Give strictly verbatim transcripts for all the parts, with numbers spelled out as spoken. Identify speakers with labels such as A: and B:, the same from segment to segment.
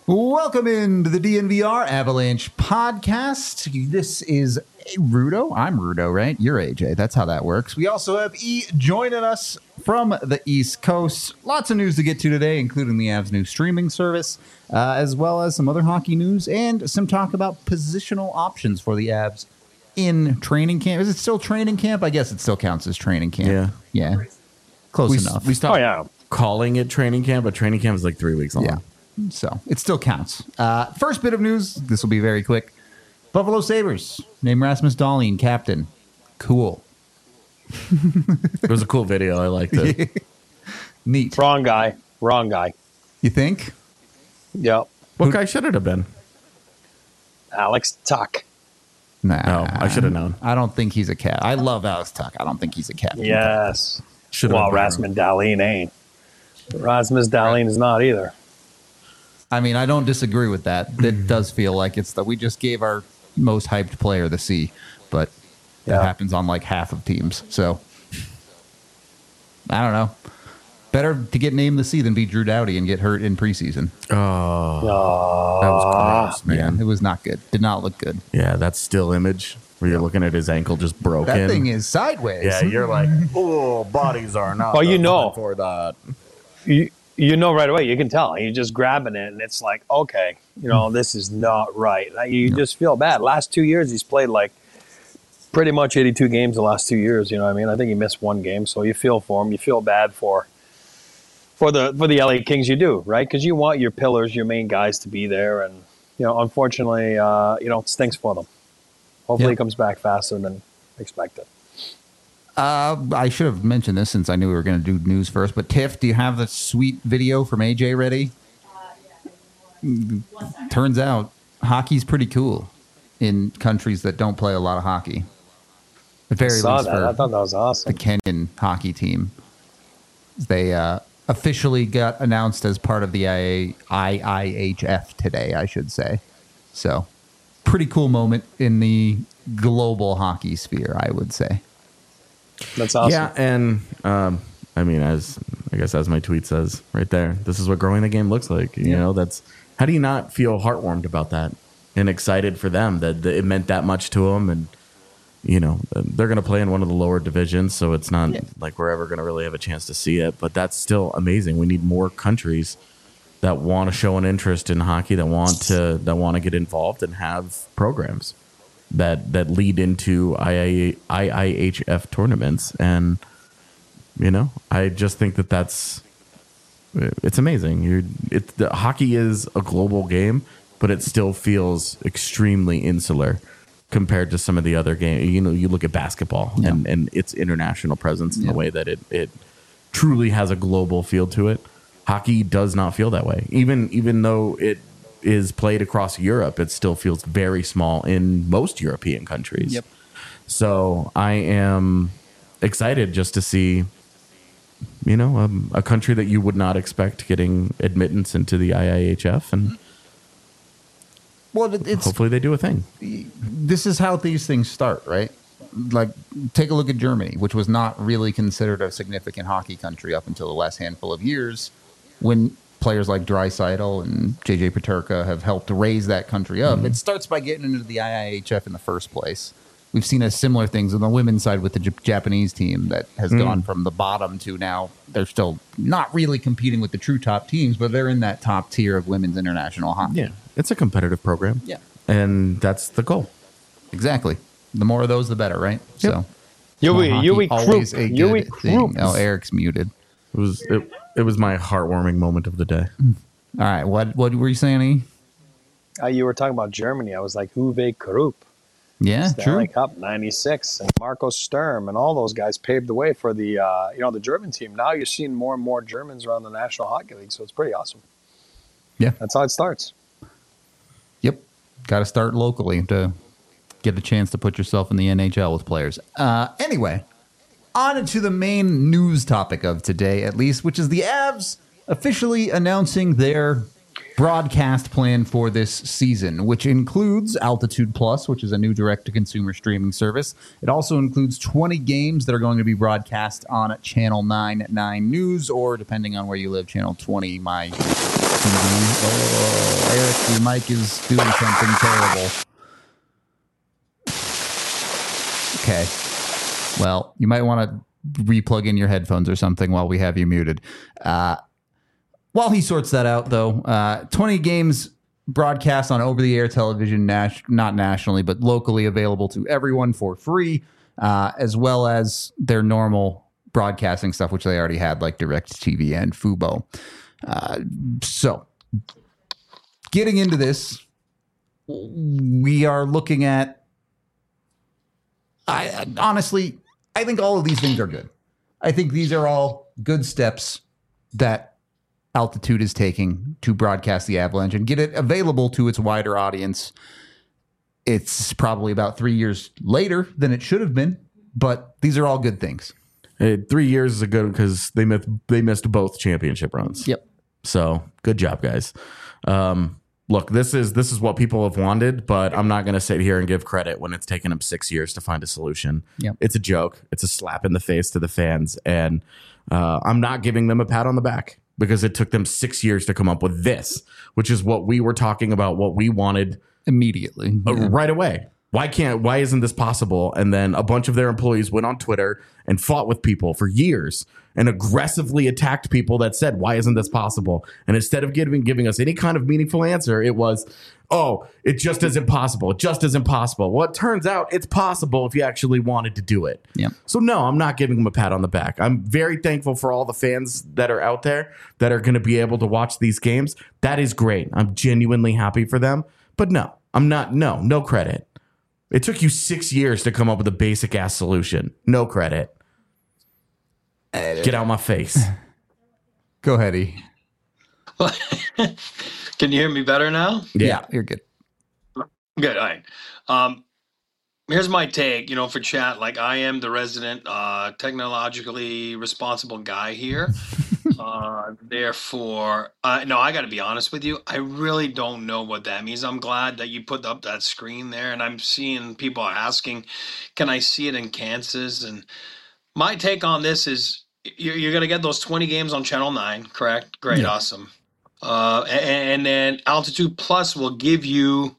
A: Welcome into the D N V R Avalanche podcast. This is Rudo. I'm Rudo, right? You're A J. That's how that works. We also have E joining us from the East Coast. Lots of news to get to today, including the Avs' new streaming service, uh, as well as some other hockey news and some talk about positional options for the Avs in training camp. Is it still training camp? I guess it still counts as training camp.
B: Yeah.
A: Yeah. Close
B: we,
A: enough.
B: We stopped
C: oh, yeah.
B: calling it training camp, but training camp is like three weeks long.
A: Yeah. So it still counts. Uh, first bit of news. This will be very quick. Buffalo Sabres name Rasmus Dahlin captain. Cool.
B: It was a cool video. I liked it.
A: Neat.
C: Wrong guy. Wrong guy.
A: You think?
C: Yep.
B: What guy should it have been?
C: Alex Tuck.
A: Nah.
B: Oh, I should have known.
A: I don't think he's a cat. I love Alex Tuck. I don't think he's a captain.
C: Yes.
B: Should
C: well, Rasmus Dahlin ain't. Rasmus Dahlin is not either.
A: I mean, I don't disagree with that. It does feel like it's that we just gave our most hyped player the C, but that
C: Yeah.
A: happens on like half of teams. So I don't know. Better to get named the C than be Drew Doughty and get hurt in preseason.
B: Oh,
C: Uh,
B: that was gross, man.
A: Yeah, it was not good. Did not look good.
B: Yeah, that still image where you're looking at his ankle just broken.
A: That thing is sideways.
B: Yeah, you're like, oh, bodies are not.
C: Well, you know.
B: for that.
C: you, you know right away. You can tell. You're just grabbing it, and it's like, okay, you know, this is not right. You just feel bad. Last two years, he's played like pretty much eighty-two games the last two years. You know what I mean? I think he missed one game, so you feel for him. You feel bad for for the for the L A Kings. You do, right? Because you want your pillars, your main guys, to be there, and you know, unfortunately, uh, you know, it stinks for them. Hopefully,
A: Yep.
C: he comes back faster than expected.
A: Uh, I should have mentioned this since I knew we were going to do news first. But Tiff, do you have the sweet video from A J ready? Turns out hockey's pretty cool in countries that don't play a lot of hockey. At very
C: I saw
A: least
C: that.
A: for
C: I thought that was
A: the
C: awesome.
A: Kenyan hockey team. They uh, officially got announced as part of the I I H F today, I should say. So, pretty cool moment in the global hockey sphere, I would say.
C: That's awesome.
B: Yeah, and um, I mean, as I guess as my tweet says right there, this is what growing the game looks like. You
A: Yeah.
B: know, that's how do you not feel heartwarmed about that and excited for them that, that it meant that much to them, and you know they're going to play in one of the lower divisions, so it's not
A: Yeah.
B: like we're ever going to really have a chance to see it. But that's still amazing. We need more countries that want to show an interest in hockey, that want to that want to get involved and have programs that that lead into I I H F tournaments. And you know, I just think that that's it's amazing. You're it the hockey is a global game, but it still feels extremely insular compared to some of the other games. You know, you look at basketball
A: Yeah.
B: and, and its international presence in
A: Yeah.
B: the way that it it truly has a global feel to it. Hockey does not feel that way. Even even though it is played across Europe, it still feels very small in most European countries.
A: Yep.
B: So I am excited just to see, you know, um, a country that you would not expect getting admittance into the I I H F, and
A: Well, it- it's
B: hopefully they do a thing.
A: this is how these things start, right? Like, take a look at Germany, which was not really considered a significant hockey country up until the last handful of years, when players like Draisaitl and J J Peterka have helped raise that country up. It starts by getting into the I I H F in the first place. We've seen a similar things on the women's side with the J- Japanese team that has gone from the bottom to now they're still not really competing with the true top teams, but they're in that top tier of women's international hockey.
B: Yeah, it's a competitive program.
A: Yeah.
B: And that's the goal.
A: Exactly. The more of those, the better, right? So,
C: Yui,
A: hockey,
C: Yui
A: always
C: Krupp.
A: a
C: Yui
A: good thing.
C: Krupp.
A: Oh, Eric's muted.
B: It was it, it was my heartwarming moment of the day.
A: All right, what what were you saying? E?
C: Uh, you were talking about Germany. I was like, Uwe Krupp.
A: Yeah,
C: Stanley
A: true.
C: Cup ninety-six, and Marco Sturm and all those guys paved the way for the uh, you know the German team. Now you're seeing more and more Germans around the National Hockey League, so it's pretty awesome.
A: Yeah.
C: That's how it starts.
A: Yep. Got to start locally to get a chance to put yourself in the N H L with players. Uh, anyway, on to the main news topic of today, at least, which is the Avs officially announcing their broadcast plan for this season, which includes Altitude Plus, which is a new direct-to-consumer streaming service. It also includes twenty games that are going to be broadcast on Channel nine nine News, or depending on where you live, Channel twenty, my T V. Oh, Eric, your mic is doing something terrible. Okay. Well, you might want to re-plug in your headphones or something while we have you muted. Uh, while he sorts that out, though, uh, twenty games broadcast on over-the-air television, nas- not nationally, but locally available to everyone for free, uh, as well as their normal broadcasting stuff, which they already had, like DirecTV and Fubo. Uh, so, getting into this, we are looking at I honestly, I think all of these things are good. I think these are all good steps that Altitude is taking to broadcast the Avalanche and get it available to its wider audience. It's probably about three years later than it should have been, but these are all good things.
B: Hey, three years is a good because they missed they missed both championship runs.
A: Yep.
B: So good job, guys. Um, Look, this is this is what people have wanted, but I'm not going to sit here and give credit when it's taken them six years to find a solution.
A: Yep.
B: It's a joke. It's a slap in the face to the fans, and uh, I'm not giving them a pat on the back because it took them six years to come up with this, which is what we were talking about, what we wanted
A: Immediately.
B: uh,
A: Yeah.
B: right away. Why can't? Why isn't this possible? And then a bunch of their employees went on Twitter and fought with people for years and aggressively attacked people that said, "Why isn't this possible?" And instead of giving giving us any kind of meaningful answer, it was, "Oh, it just isn't possible. It just isn't possible." Well, it turns out it's possible if you actually wanted to do it.
A: Yeah.
B: So no, I'm not giving them a pat on the back. I'm very thankful for all the fans that are out there that are going to be able to watch these games. That is great. I'm genuinely happy for them. But no, I'm not. No, no credit. It took you six years to come up with a basic ass solution. No credit. Get out my face.
A: Go ahead, E.
D: Can you hear me better now?
A: Yeah, you're good.
D: Good. All right. Um, here's my take, you know, for chat. Like, I am the resident uh, technologically responsible guy here. uh, therefore, uh, no, I got to be honest with you. I really don't know what that means. I'm glad that you put up that screen there, and I'm seeing people are asking, can I see it in Kansas? And my take on this is you're, you're going to get those twenty games on Channel nine, correct? Great.
A: Yeah.
D: Awesome. Uh, and, and then Altitude Plus will give you,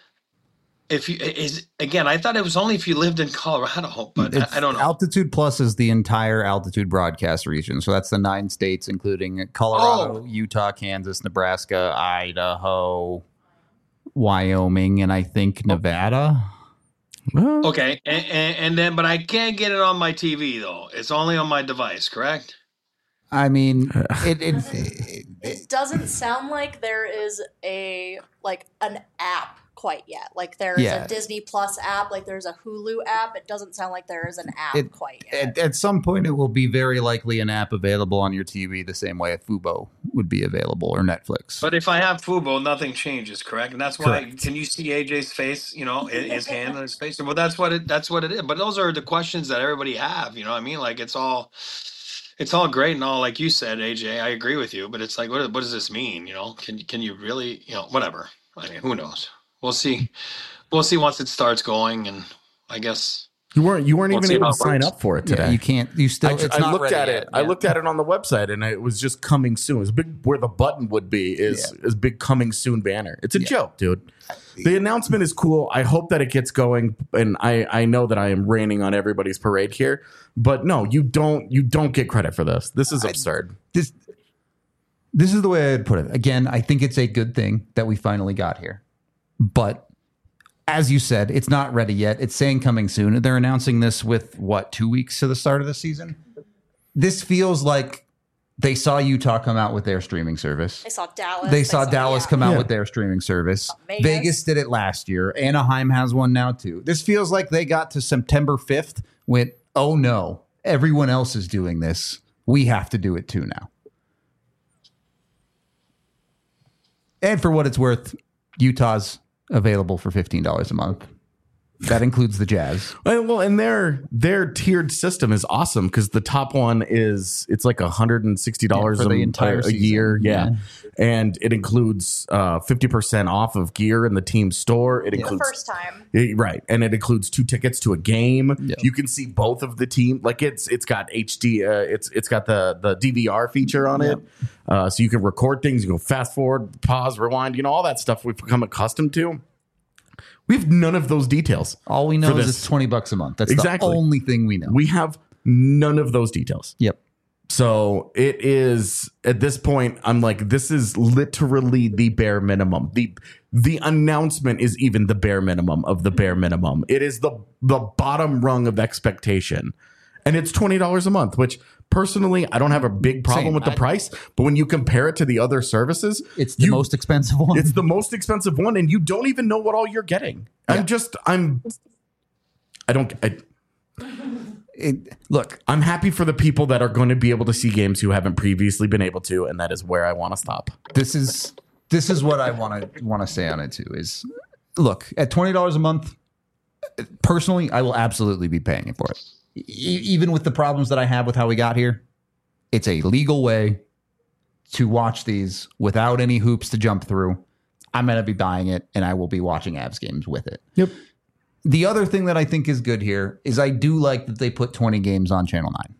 D: if you is again, I thought it was only if you lived in Colorado, but I, I don't know.
A: Altitude Plus is the entire Altitude broadcast region. So that's the nine states, including Colorado,
D: Oh.
A: Utah, Kansas, Nebraska, Idaho, Wyoming, and I think Nevada.
D: Okay, and, and, and then, but I can't get it on my T V though. It's only on my device, correct?
A: I mean, it, it,
E: It, it doesn't sound like there is a like an app quite yet. Like there's
A: Yeah.
E: a Disney Plus app, like there's a Hulu app. It doesn't sound like there is an app
A: It-
E: quite yet.
A: at, at some point, it will be very likely an app available on your T V the same way a Fubo would be available or Netflix.
D: But if I have Fubo, nothing changes, correct? And that's why.
A: Correct.
D: Can you see A J's face? You know, his his hand on his face. Well, that's what it. That's what it is. But those are the questions that everybody have. You know what I mean? Like it's all, it's all great and all. Like you said, A J, I agree with you. But it's like, what, what does this mean? You know, can can you really? You know, whatever. I mean, who knows? We'll see. We'll see once it starts going, and I guess.
B: You weren't you weren't
D: We'll
B: even
D: see
B: able
D: how
B: to
D: it
B: sign
D: works.
B: up for it
A: Yeah,
B: today.
A: you can't. You still.
B: I,
A: it's
B: I
A: not
B: looked
A: ready
B: at
A: yet.
B: it. I
A: Yeah.
B: looked at it on the website, and it was just coming soon. It's big where the button would be is is big coming soon banner. It's a
A: Yeah.
B: joke, dude. The announcement is cool. I hope that it gets going, and I I know that I am raining on everybody's parade here, but no, you don't you don't get credit for this. This is absurd.
A: this this is the way I'd put it. Again, I think it's a good thing that we finally got here. But as you said, it's not ready yet. It's saying coming soon. They're announcing this with what, two weeks to the start of the season? This feels like they saw Utah come out with their streaming service.
E: They saw Dallas.
A: They saw Dallas
E: yeah.
A: come out
B: Yeah.
A: with their streaming service.
E: Vegas.
A: Vegas did it last year. Anaheim has one now too. This feels like they got to September fifth, went, oh no, everyone else is doing this. We have to do it too now. And for what it's worth, Utah's available for fifteen dollars a month. That includes the Jazz.
B: Well, well, and their their tiered system is awesome because the top one is it's like one hundred sixty dollars
A: Yeah, for the
B: a,
A: entire
B: a
A: season.
B: year, yeah.
A: Yeah.
B: And it includes uh, fifty percent off of gear in the team store. It
E: The
B: includes
E: first time.
B: Yeah, right, and it includes two tickets to a game.
A: Yeah.
B: You can see both of the team. Like it's it's got H D. Uh, it's it's got the the D V R feature on it, uh, so you can record things. You go fast forward, pause, rewind. You know all that stuff we've become accustomed to. We have none of those details.
A: All we know
B: For
A: is
B: this.
A: it's twenty bucks a month. That's
B: Exactly.
A: the only thing we know.
B: We have none of those details.
A: Yep.
B: So it is at this point, I'm like, this is literally the bare minimum. The the announcement is even the bare minimum of the bare minimum. It is the the bottom rung of expectation. And it's twenty dollars a month, which personally I don't have a big problem
A: Same.
B: with the
A: I-
B: price. But when you compare it to the other services,
A: It's the
B: you-
A: most expensive one.
B: it's the most expensive one, and you don't even know what all you're getting.
A: Yeah.
B: I'm just I'm I don't I,
A: It- look,
B: I'm happy for the people that are going to be able to see games who haven't previously been able to, and that is where I want to stop.
A: this is this is what I want to want to say on it too. Is look at twenty dollars a month. Personally, I will absolutely be paying it for it, e- even with the problems that I have with how we got here. It's a legal way to watch these without any hoops to jump through. I'm going to be buying it, and I will be watching Avs games with it.
B: Yep.
A: The other thing that I think is good here is I do like that they put twenty games on Channel nine.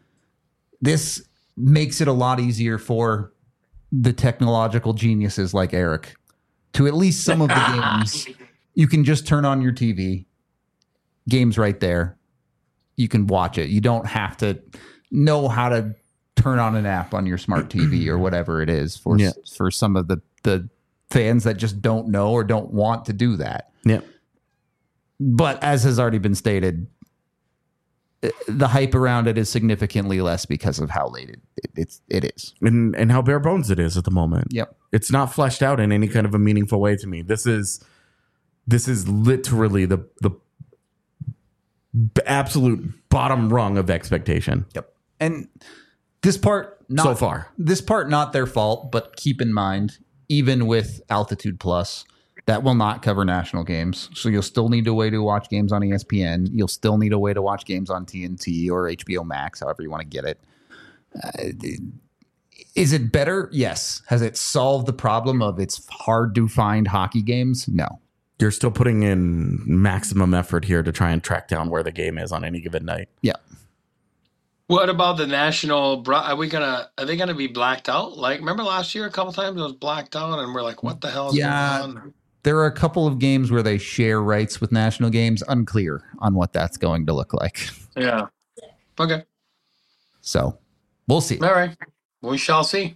A: This makes it a lot easier for the technological geniuses like Eric to at least some of the games. You can just turn on your T V, games right there. You can watch it. You don't have to know how to turn on an app on your smart T V or whatever it is for
B: Yeah.
A: for some of the, the fans that just don't know or don't want to do that.
B: Yep.
A: But as has already been stated, i- the hype around it is significantly less because of how late it, it it's it is.
B: And and how bare bones it is at the moment.
A: Yep.
B: It's not fleshed out in any kind of a meaningful way to me. This is this is literally the the b- absolute bottom rung of expectation.
A: Yep. And this part not
B: So far.
A: This part not their fault, but keep in mind, even with Altitude Plus, that will not cover national games. So you'll still need a way to watch games on E S P N. You'll still need a way to watch games on T N T or H B O Max, however you want to get it. Uh, is it better? Yes. Has it solved the problem of it's hard to find hockey games? No.
B: You're still putting in maximum effort here to try and track down where the game is on any given night.
A: Yeah.
D: What about the national? bro- Are we gonna? Are they gonna be blacked out? Like, remember last year, a couple times it was blacked out, and we're like, "What the hell is
A: Yeah.
D: going on?"
A: There are a couple of games where they share rights with national games. Unclear on what that's going to look like.
D: Yeah. Okay.
A: So we'll see.
D: All right. We shall see.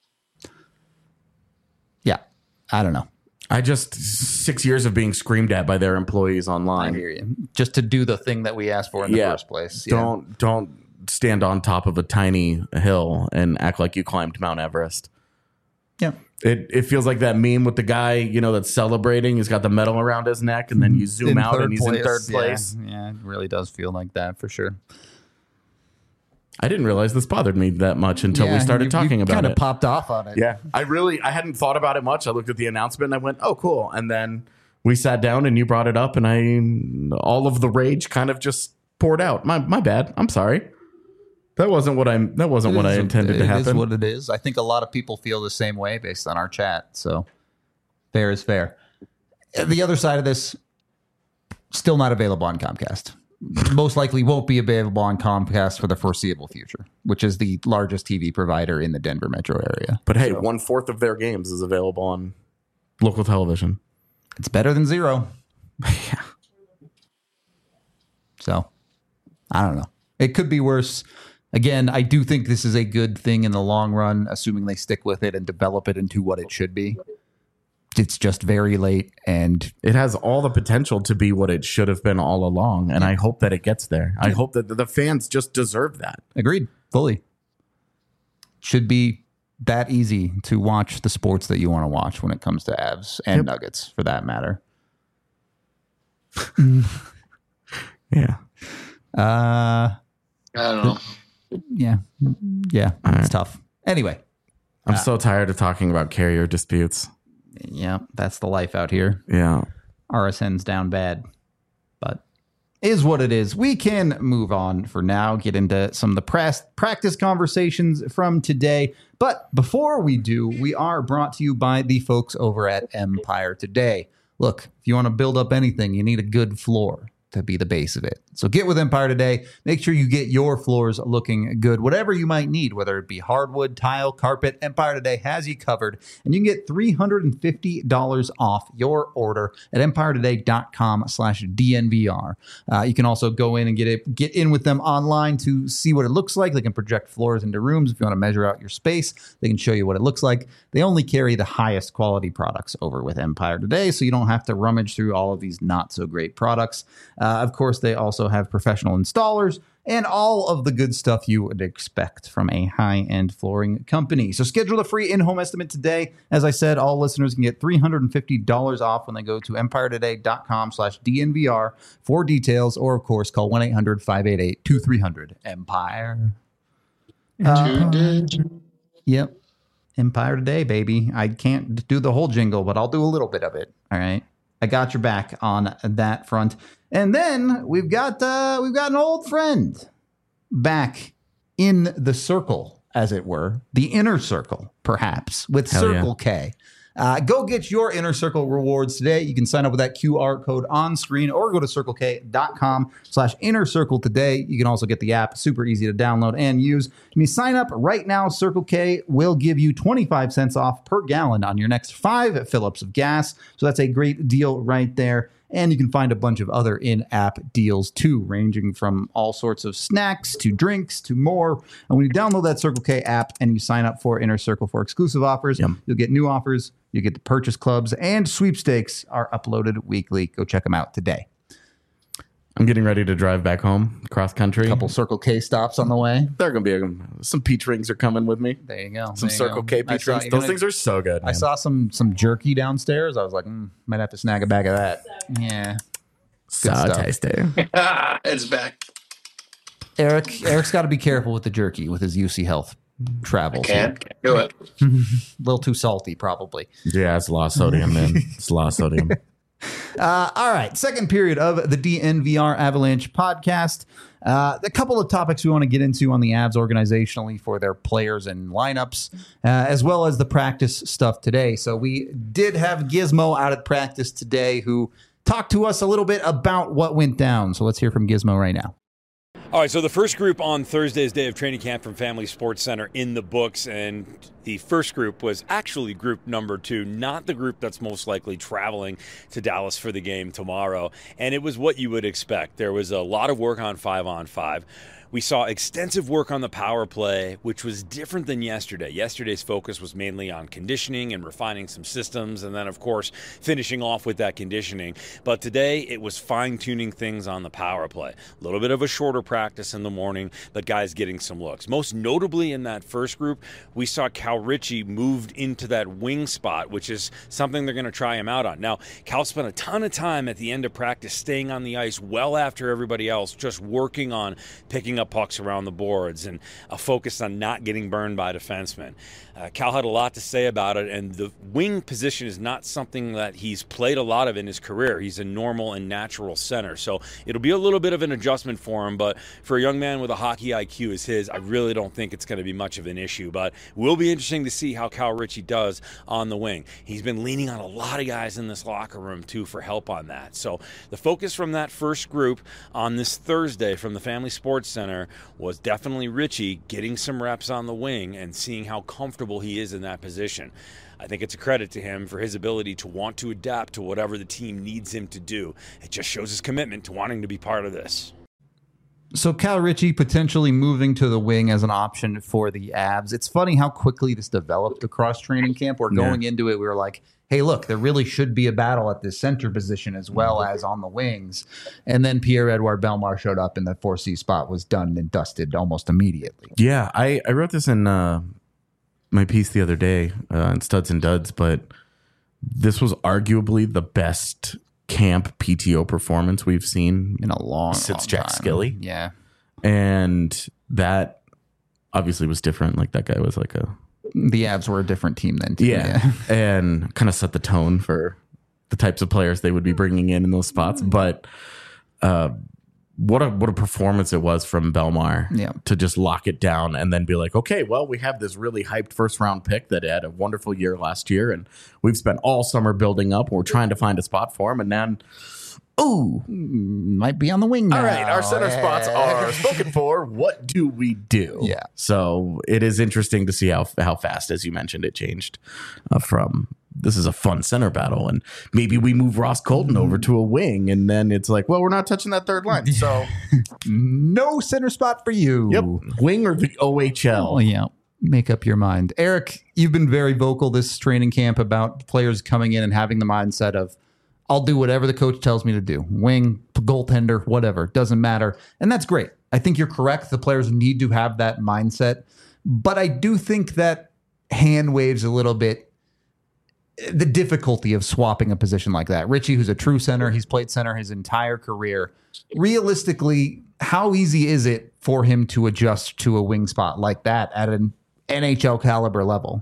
A: Yeah. I don't know.
B: I just six years of being screamed at by their employees
A: I
B: online.
A: hear you. Just to do the thing that we asked for in the
B: Yeah.
A: first place. Yeah.
B: Don't don't stand on top of a tiny hill and act like you climbed Mount Everest.
A: Yeah.
B: It it feels like that meme with the guy, you know, that's celebrating. He's got the medal around his neck, and then you zoom
A: In
B: out
A: third
B: and he's in
A: place.
B: third
A: Yeah.
B: place.
A: Yeah, it really does feel like that for sure.
B: I didn't realize this bothered me that much until we
A: Yeah,
B: started
A: you-
B: talking
A: you
B: about
A: kind
B: it.
A: of popped off on it.
B: Yeah, I really I hadn't thought about it much. I looked at the announcement and I went, "Oh, cool." And then we sat down and you brought it up, and I all of the rage kind of just poured out. My my bad. I'm sorry. That wasn't what I'm. That wasn't
A: It
B: what I
A: is-
B: intended to
A: It
B: happen.
A: is what it is. I think a lot of people feel the same way based on our chat. So fair is fair. The other side of this, still not available on Comcast. Most likely won't be available on Comcast for the foreseeable future, which is the largest T V provider in the Denver metro area.
B: But hey, one fourth of their games is available on local television.
A: It's better than zero. Yeah. So I don't know. It could be worse. Again, I do think this is a good thing in the long run, assuming they stick with it and develop it into what it should be. It's just very late, and
B: It has all the potential to be what it should have been all along, and I hope that it gets there. I hope that the fans just deserve that.
A: agreed, fully. Should be that easy to watch the sports that you want to watch when it comes to Avs and
B: Yep.
A: Nuggets, for that matter.
B: Yeah.
A: Uh,
D: I don't know.
A: yeah, yeah,
B: All
A: it's
B: right.
A: tough. Anyway,
B: I'm so tired of talking about carrier disputes.
A: yeah, that's the life out here.
B: Yeah.
A: R S N's down bad. but is what it is. We can move on for now, get into some of the press, practice conversations from today. But before we do, we are brought to you by the folks over at Empire Today. Look, if you want to build up anything, you need a good floor to be the base of it. So get with Empire Today. Make sure you get your floors looking good, whatever you might need, whether it be hardwood, tile, carpet. Empire Today has you covered, and you can get three hundred fifty dollars off your order at empire today dot com slash D N V R. Uh, you can also go in and get it, get in with them online to see what it looks like. They can project floors into rooms. If you want to measure out your space, they can show you what it looks like. They only carry the highest quality products over with Empire Today, so you don't have to rummage through all of these not so great products. Uh, of course, they also have professional installers and all of the good stuff you would expect from a high-end flooring company. So schedule a free in-home estimate today. As I said, all listeners can get three hundred fifty dollars off when they go to empire today dot com slash D N V R for details, or, of course, call one eight hundred five eight eight two three zero zero Empire. Uh, yep. Empire Today, baby. I can't do the whole jingle, but I'll do a little bit of it. All right. I got your back on that front. And then we've got uh, we've got an old friend back in the circle, as it were, the inner circle, perhaps, with
B: Hell
A: Circle
B: yeah.
A: K. Uh, go get your Inner Circle rewards today. You can sign up with that Q R code on screen or go to circle k dot com slash inner circle today. You can also get the app, super easy to download and use. When you sign up right now, Circle K will give you twenty-five cents off per gallon on your next five fill-ups of gas. So that's a great deal right there. And you can find a bunch of other in-app deals too, ranging from all sorts of snacks to drinks to more. And when you download that Circle K app and you sign up for Inner Circle for exclusive offers,
B: Yep.
A: you'll get new offers, you get the purchase clubs, and sweepstakes are uploaded weekly. Go check them out today.
B: I'm getting ready to drive back home cross country.
A: A couple Circle K stops on the way.
B: There are going to be a, some peach rings are coming with me.
A: There you go.
B: Some
A: There you
B: Circle
A: go.
B: K
A: I
B: peach
A: saw-
B: rings.
A: you
B: Those
A: know,
B: things are so good.
A: I
B: Man.
A: saw some some jerky downstairs. I was like, mm, might have to snag a bag of that. Yeah.
B: so
A: stuff.
B: tasty.
D: It's back.
A: Eric, Eric's got to be careful with the jerky with his U C Health travels.
D: Can't, can't do it.
A: A little too salty, probably.
B: Yeah, it's a lot of sodium, man. It's a lot of sodium.
A: Uh, all right, second period of the D N V R Avalanche podcast. Uh, a couple of topics we want to get into on the Avs organizationally for their players and lineups, uh, as well as the practice stuff today. So we did have Gizmo out at practice today, who talked to us a little bit about what went down. So let's hear from Gizmo right now.
F: All right, so the first group on Thursday's day of training camp from Family Sports Center in the books, and the first group was actually group number two, not the group that's most likely traveling to Dallas for the game tomorrow. And it was what you would expect. There was a lot of work on five on five. We saw extensive work on the power play, which was different than yesterday. Yesterday's focus was mainly on conditioning and refining some systems, and then, of course, finishing off with that conditioning. But today, it was fine-tuning things on the power play. A little bit of a shorter practice in the morning, but guys getting some looks. Most notably in that first group, we saw Cal Ritchie moved into that wing spot, which is something they're going to try him out on. Now, Cal spent a ton of time at the end of practice staying on the ice well after everybody else, just working on picking up pucks around the boards and a focus on not getting burned by defensemen. Uh, Cal had a lot to say about it, and the wing position is not something that he's played a lot of in his career. He's a normal and natural center, so it'll be a little bit of an adjustment for him, but for a young man with a hockey I Q as his, I really don't think it's going to be much of an issue, but it will be interesting to see how Cal Ritchie does on the wing. He's been leaning on a lot of guys in this locker room, too, for help on that. So the focus from that first group on this Thursday from the Family Sports Center was definitely Ritchie getting some reps on the wing and seeing how comfortable he is in that position. I think it's a credit to him for his ability to want to adapt to whatever the team needs him to do. It just shows his commitment to wanting to be part of this.
A: So Cal Ritchie potentially moving to the wing as an option for the Avs. It's funny how quickly this developed across training camp. We're going
B: Yeah.
A: into it, we were like, hey, look, there really should be a battle at this center position as well as on the wings. And then Pierre-Edouard Bellemare showed up, and the four C spot was done and dusted almost immediately.
B: Yeah, I, I wrote this in uh, my piece the other day uh, in Studs and Duds, but this was arguably the best camp P T O performance we've seen
A: In a long,
B: since
A: long
B: Jack
A: time.
B: Skilly.
A: Yeah.
B: And that obviously was different. Like that guy was like a
A: The Avs were a different team then, too.
B: yeah, and kind of set the tone for the types of players they would be bringing in in those spots. But uh, what a what a performance it was from Belmar
A: Yeah.
B: to just lock it down and then be like, okay, well, we have this really hyped first round pick that had a wonderful year last year, and we've spent all summer building up. And we're trying to find a spot for him, and then, ooh,
A: Might be on the wing now.
B: all right, our center spots are spoken for. What do we do?
A: Yeah.
B: So it is interesting to see how how fast, as you mentioned, it changed uh, from this is a fun center battle, and maybe we move Ross Colton over to a wing, and then it's like, well, we're not touching that third line. So,
A: No center spot for you.
B: yep, wing or the O H L.
A: Oh, yeah. Make up your mind. Eric, you've been very vocal this training camp about players coming in and having the mindset of, I'll do whatever the coach tells me to do. Wing, goaltender, whatever. Doesn't matter. And that's great. I think you're correct. The players need to have that mindset. But I do think that hand waves a little bit the difficulty of swapping a position like that. Richie, who's a true center, he's played center his entire career. Realistically, how easy is it for him to adjust to a wing spot like that at an N H L caliber level?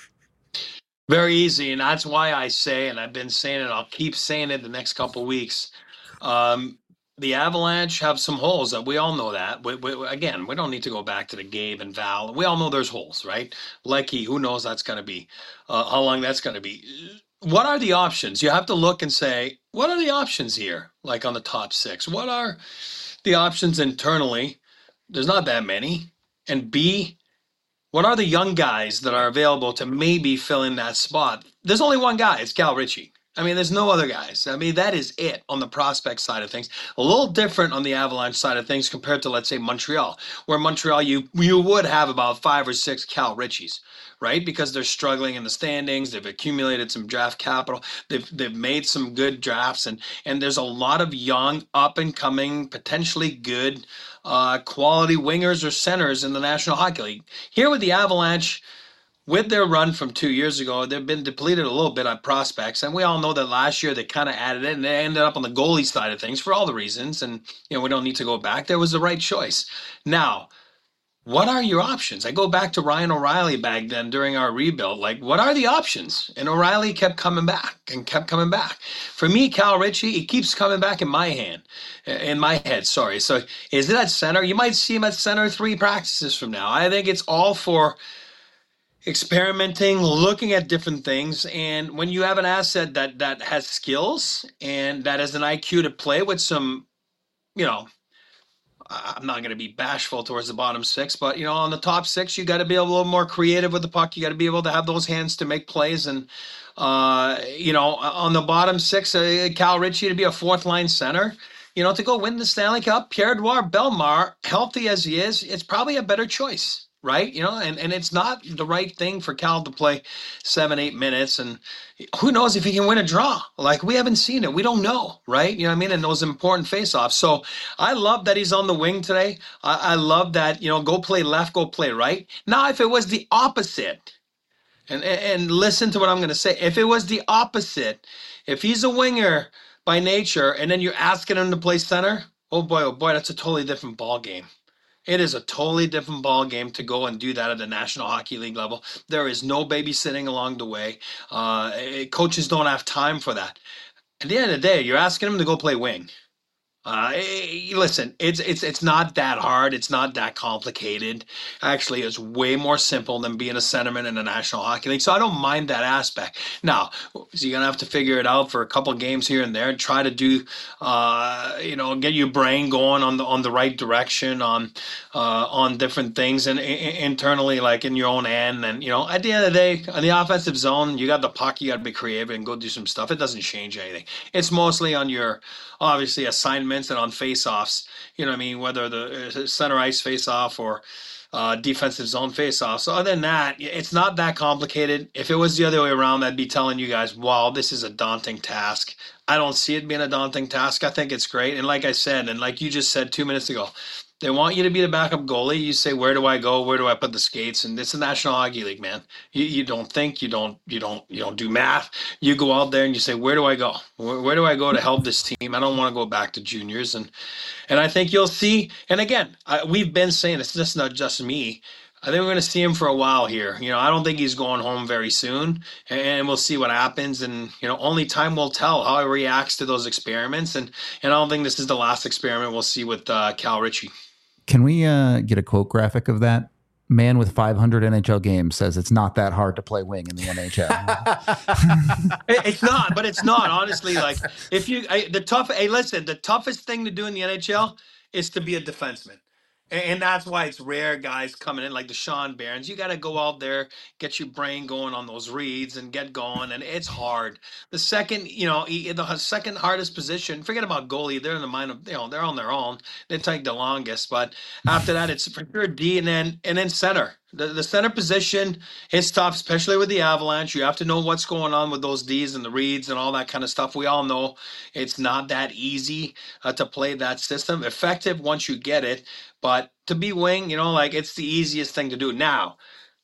D: Very easy, and that's why I say, and I've been saying it, I'll keep saying it the next couple of weeks. Um, the Avalanche have some holes that we all know that. We, we, again, we don't need to go back to the Gabe and Val. We all know there's holes, right? Lecky, who knows that's going to be, uh, how long that's going to be. What are the options? You have to look and say, what are the options here? Like on the top six, what are the options internally? There's not that many. And B, what are the young guys that are available to maybe fill in that spot? There's only one guy. It's Cal Ritchie. I mean, there's no other guys. I mean, that is it on the prospect side of things. A little different on the Avalanche side of things compared to, let's say, Montreal, where Montreal, you you would have about five or six Cal Ritchies, right? Because they're struggling in the standings. They've accumulated some draft capital. They've they've made some good drafts, and and there's a lot of young, up and coming, potentially good, uh, quality wingers or centers in the National Hockey League. Here with the Avalanche, with their run from two years ago, they've been depleted a little bit on prospects. And we all know that last year they kind of added it and they ended up on the goalie side of things for all the reasons. And, you know, we don't need to go back. There was the right choice. Now, what are your options? I go back to Ryan O'Reilly back then during our rebuild. Like, what are the options? And O'Reilly kept coming back and kept coming back. For me, Cal Ritchie, he keeps coming back in my hand, in my head, sorry. So is it at center? You might see him at center three practices from now. I think it's all for experimenting, looking at different things. And when you have an asset that that has skills and that has an I Q to play with some, you know, I'm not going to be bashful towards the bottom six, but, you know, on the top six, you got to be a little more creative with the puck. You got to be able to have those hands to make plays. And, uh, you know, on the bottom six, uh, Cal Ritchie to be a fourth line center, you know, to go win the Stanley Cup, Pierre-Edouard Bellemare, healthy as he is, it's probably a better choice. Right. You know, and, and it's not the right thing for Cal to play seven, eight minutes. And who knows if he can win a draw? Like, we haven't seen it. We don't know. Right. You know what I mean? And those important faceoffs. So I love that he's on the wing today. I, I love that, you know, go play left, go play right. Now, if it was the opposite, and, and, and listen to what I'm going to say, if it was the opposite, if he's a winger by nature and then you're asking him to play center, oh boy, oh boy, that's a totally different ball game. It is a totally different ball game to go and do that at the National Hockey League level. There is no babysitting along the way. Uh, coaches don't have time for that. At the end of the day, you're asking them to go play wing. Uh, listen, it's it's it's not that hard. It's not that complicated. Actually, it's way more simple than being a centerman in the National Hockey League. So I don't mind that aspect. Now, so you're gonna have to figure it out for a couple games here and there, and try to do, uh, you know, get your brain going on the on the right direction on uh, on different things and, and internally, like in your own end. And you know, at the end of the day, on the offensive zone, you got the puck. You got to be creative and go do some stuff. It doesn't change anything. It's mostly on your obviously assignments and on face-offs, you know what I mean, whether the center ice face-off or uh, defensive zone face-off. So other than that, it's not that complicated. If it was the other way around, I'd be telling you guys, wow, this is a daunting task. I don't see it being a daunting task. I think it's great. And like I said, and like you just said two minutes ago, they want you to be the backup goalie. You say, where do I go? Where do I put the skates? And it's the National Hockey League, man. You you don't think, you don't you don't you don't do math. You go out there and you say, where do I go? Where, where do I go to help this team? I don't want to go back to juniors. And and I think you'll see. And again, I, we've been saying it's just not just me. I think we're going to see him for a while here. You know, I don't think he's going home very soon, and we'll see what happens. And you know, only time will tell how he reacts to those experiments. And and I don't think this is the last experiment we'll see with uh, Cal Ritchie.
A: Can we uh, get a quote graphic of that? Man with five hundred N H L games says it's not that hard to play wing in the N H L.
D: It- it's not, but it's not honestly. Like if you I, the tough, hey, listen, the toughest thing to do in the N H L is to be a defenseman. And, and that's why it's rare guys coming in like the Sean Barons. You got to go out there, get your brain going on those reads and get going. And it's hard. The second, you know, e- the second hardest position, forget about goalie. They're in the mind of, you know, they're on their own. They take the longest. But after that, it's for sure D and then, and then center. The, the center position is tough, especially with the Avalanche. You have to know what's going on with those Ds and the reads and all that kind of stuff. We all know it's not that easy uh, to play that system. Effective once you get it. But to be wing, you know, like it's the easiest thing to do. Now,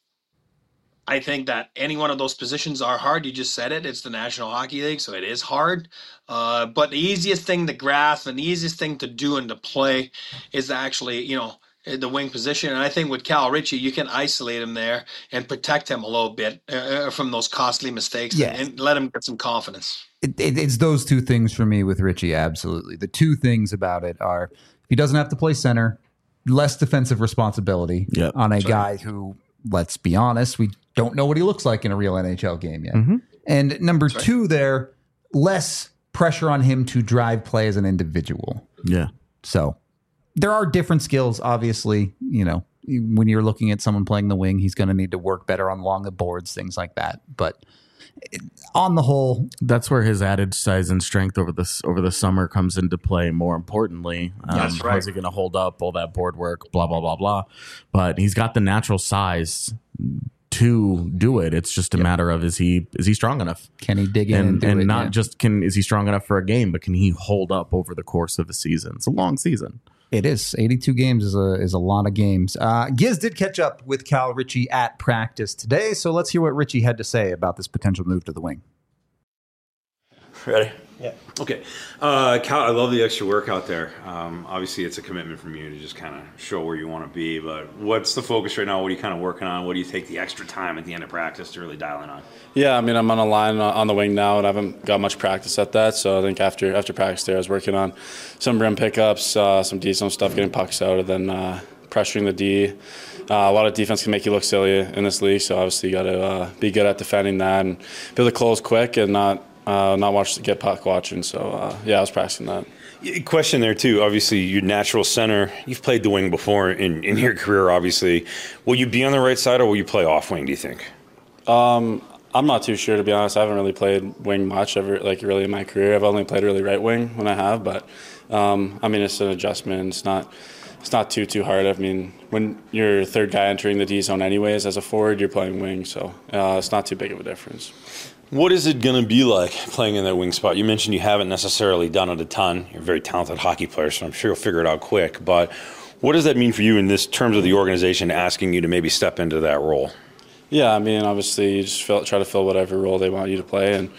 D: I think that any one of those positions are hard. You just said it. It's the National Hockey League, so it is hard. Uh, but the easiest thing to grasp and the easiest thing to do and to play is actually, you know, the wing position. And I think with Cal Ritchie, you can isolate him there and protect him a little bit uh, from those costly mistakes
A: Yes.
D: and, and let him get some confidence.
A: it, it, it's those two things for me with Ritchie. Absolutely. The two things about it are if he doesn't have to play center, less defensive responsibility
B: Yep.
A: on a guy who, let's be honest, we don't know what he looks like in a real N H L game yet.
B: Mhm.
A: And number
D: right.
A: two there, less pressure on him to drive play as an individual.
B: Yeah.
A: So there are different skills, obviously. You know, when you're looking at someone playing the wing, he's going to need to work better on along the boards, things like that. But it, on the whole,
B: That's where his added size and strength over this over the summer comes into play. More importantly, um,
D: That's right.
B: how's he going to hold up all that board work? Blah blah blah blah. But he's got the natural size to do it. It's just a matter of is he is he strong enough?
A: can he dig in and,
B: And
A: do
B: and
A: it?
B: not
A: Yeah.
B: just can is he strong enough for a game, but can he hold up over the course of a season? It's a long season.
A: It is. eighty-two games is a is a lot of games. Uh, Giz did catch up with Cal Ritchie at practice today, so let's hear what Ritchie had to say about this potential move to the wing.
G: Ready?
C: Yeah.
G: Okay. Uh, Cal, I love the extra work out there. Um, obviously, it's a commitment from you to just kind of show where you want to be. But what's the focus right now? What are you kind of working on? What do you take the extra time at the end of practice to really dial in on?
H: Yeah, I mean, I'm on a line on the wing now, and I haven't got much practice at that. So I think after after practice there, I was working on some rim pickups, uh, some decent stuff, getting pucks out, and then uh, pressuring the D. Uh, a lot of defense can make you look silly in this league, so obviously you got to uh, be good at defending that and be able to close quick and not uh, not watch get puck watching. So uh, yeah, I was practicing that.
G: Question there too. Obviously, your natural center. You've played the wing before in, in your career. Obviously, will you be on the right side or will you play off wing? Do you think?
H: Um, I'm not too sure, to be honest. I haven't really played wing much ever, like really in my career. I've only played really right wing when I have, but um, I mean it's an adjustment. It's not it's not too too hard. I mean, when you're third guy entering the D zone anyways as a forward, you're playing wing, so uh, it's not too big of a difference.
G: What is it going to be like playing in that wing spot? You mentioned you haven't necessarily done it a ton. You're a very talented hockey player, so I'm sure you'll figure it out quick. But what does that mean for you in this terms of the organization asking you to maybe step into that role?
H: Yeah, I mean, obviously you just fill, try to fill whatever role they want you to play, and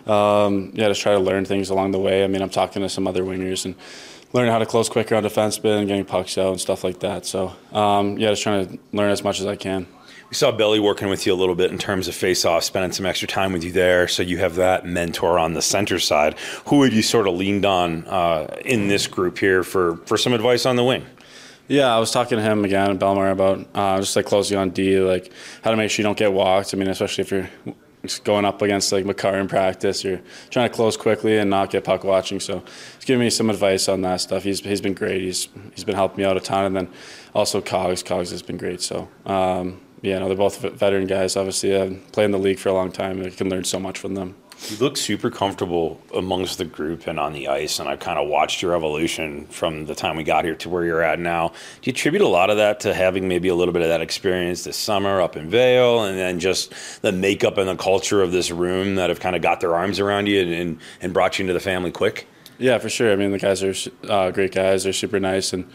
H: um, yeah, just try to learn things along the way. I mean, I'm talking to some other wingers and learning how to close quicker on defenseman and getting pucks out and stuff like that. So um, yeah, just trying to learn as much as I can.
G: We saw Belly working with you a little bit in terms of face-off, spending some extra time with you there, so you have that mentor on the center side. Who have you sort of leaned on uh, in this group here for, for some advice on the wing?
H: Yeah, I was talking to him again, Belmar, about uh, just like closing on D, like how to make sure you don't get walked. I mean, especially if you're going up against like Makar in practice, you're trying to close quickly and not get puck watching. So he's giving me some advice on that stuff. He's he's been great. He's he's been helping me out a ton, and then also Cogs. Cogs has been great. So um, yeah, no, they're both veteran guys. Obviously, I've played in the league for a long time. I can learn so much from them.
G: You look super comfortable amongst the group and on the ice, and I've kind of watched your evolution from the time we got here to where you're at now. Do you attribute a lot of that to having maybe a little bit of that experience this summer up in Vail, and then just the makeup and the culture of this room that have kind of got their arms around you and, and, and brought you into the family quick?
H: Yeah, for sure. I mean, the guys are uh, great guys. They're super nice, and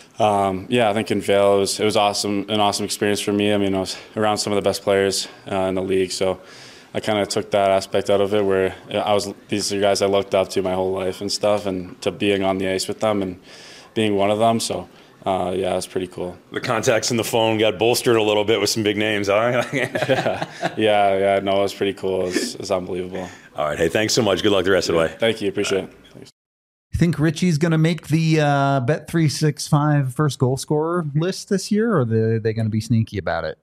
H: um, yeah, I think in Vail it was it was awesome, an awesome experience for me. I mean, I was around some of the best players uh, in the league, so I kind of took that aspect out of it where I was, these are guys I looked up to my whole life and stuff, and to being on the ice with them and being one of them. So uh, yeah, it's pretty cool.
G: The contacts in the phone got bolstered a little bit with some big names. All right.
H: yeah, yeah, yeah. No, it was pretty cool. It was, it was unbelievable.
G: All right. Hey, thanks so much. Good luck the rest of the way.
H: Thank you. Appreciate it. Thanks.
A: You think Richie's going to make the uh, Bet three sixty-five first goal scorer list this year, or are they, they going to be sneaky about it?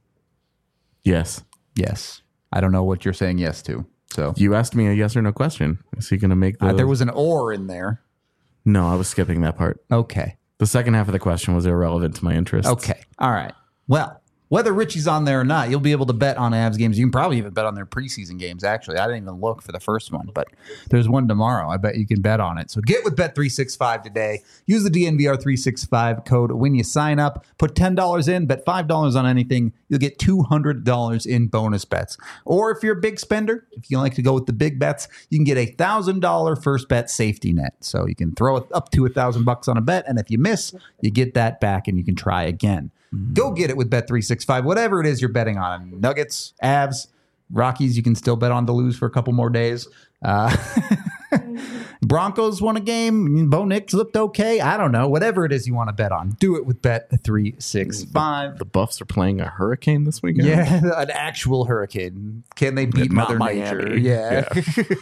B: Yes.
A: Yes. I don't know what you're saying yes to. So
B: You asked me a yes or no question. Is he going to make the...
A: uh, there was an or in there.
B: No, I was skipping that part.
A: Okay.
B: The second half of the question was irrelevant to my interest.
A: Okay. All right. Well, whether Richie's on there or not, you'll be able to bet on Avs games. You can probably even bet on their preseason games, actually. I didn't even look for the first one, but there's one tomorrow. I bet you can bet on it. So get with Bet three sixty-five today. Use the D N V R three sixty-five code when you sign up. Put ten dollars in, bet five dollars on anything. You'll get two hundred dollars in bonus bets. Or if you're a big spender, if you like to go with the big bets, you can get a one thousand dollars first bet safety net. So you can throw it up to one thousand bucks on a bet, and if you miss, you get that back and you can try again. Go get it with Bet three sixty-five. Whatever it is you're betting on. Nuggets, Avs, Rockies, you can still bet on to lose for a couple more days. Uh, Broncos won a game. Bo Nix looked okay. I don't know. Whatever it is you want to bet on, do it with Bet three sixty-five.
B: The Buffs are playing a hurricane this weekend?
A: Yeah, an actual hurricane. Can they beat
B: Not
A: Mother
B: Miami.
A: Nature? Yeah. yeah.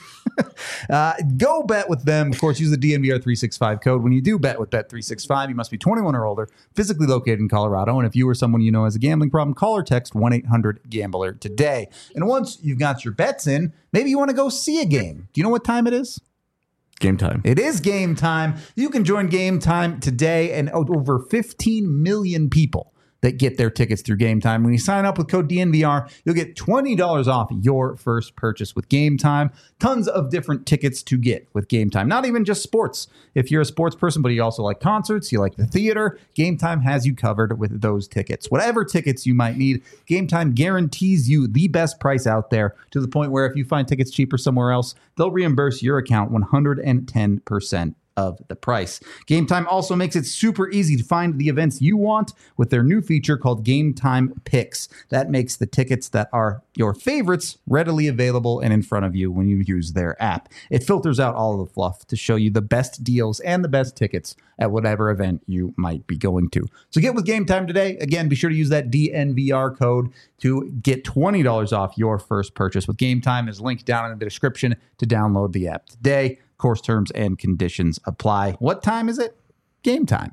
A: uh, go bet with them. Of course, use the D N V R three sixty-five code. When you do bet with Bet three sixty-five, you must be twenty-one or older, physically located in Colorado. And if you or someone you know has a gambling problem, call or text one eight hundred gambler today. And once you've got your bets in, maybe you want to go see a game. Do you know what time it is?
B: Game time.
A: It is game time. You can join Game Time today, and over fifteen million people that get their tickets through Game Time. When you sign up with code D N V R, you'll get twenty dollars off your first purchase with Game Time. Tons of different tickets to get with Game Time. Not even just sports. If you're a sports person, but you also like concerts, you like the theater, Game Time has you covered with those tickets. Whatever tickets you might need, Game Time guarantees you the best price out there, to the point where if you find tickets cheaper somewhere else, they'll reimburse your account one hundred ten percent of the price. Game Time also makes it super easy to find the events you want with their new feature called Game Time Picks. That makes the tickets that are your favorites readily available and in front of you when you use their app. It filters out all of the fluff to show you the best deals and the best tickets at whatever event you might be going to. So get with Game Time today. Again, be sure to use that D N V R code to get twenty dollars off your first purchase with Game Time. Is linked down in the description to download the app today. Course terms and conditions apply. What time is it? Game time.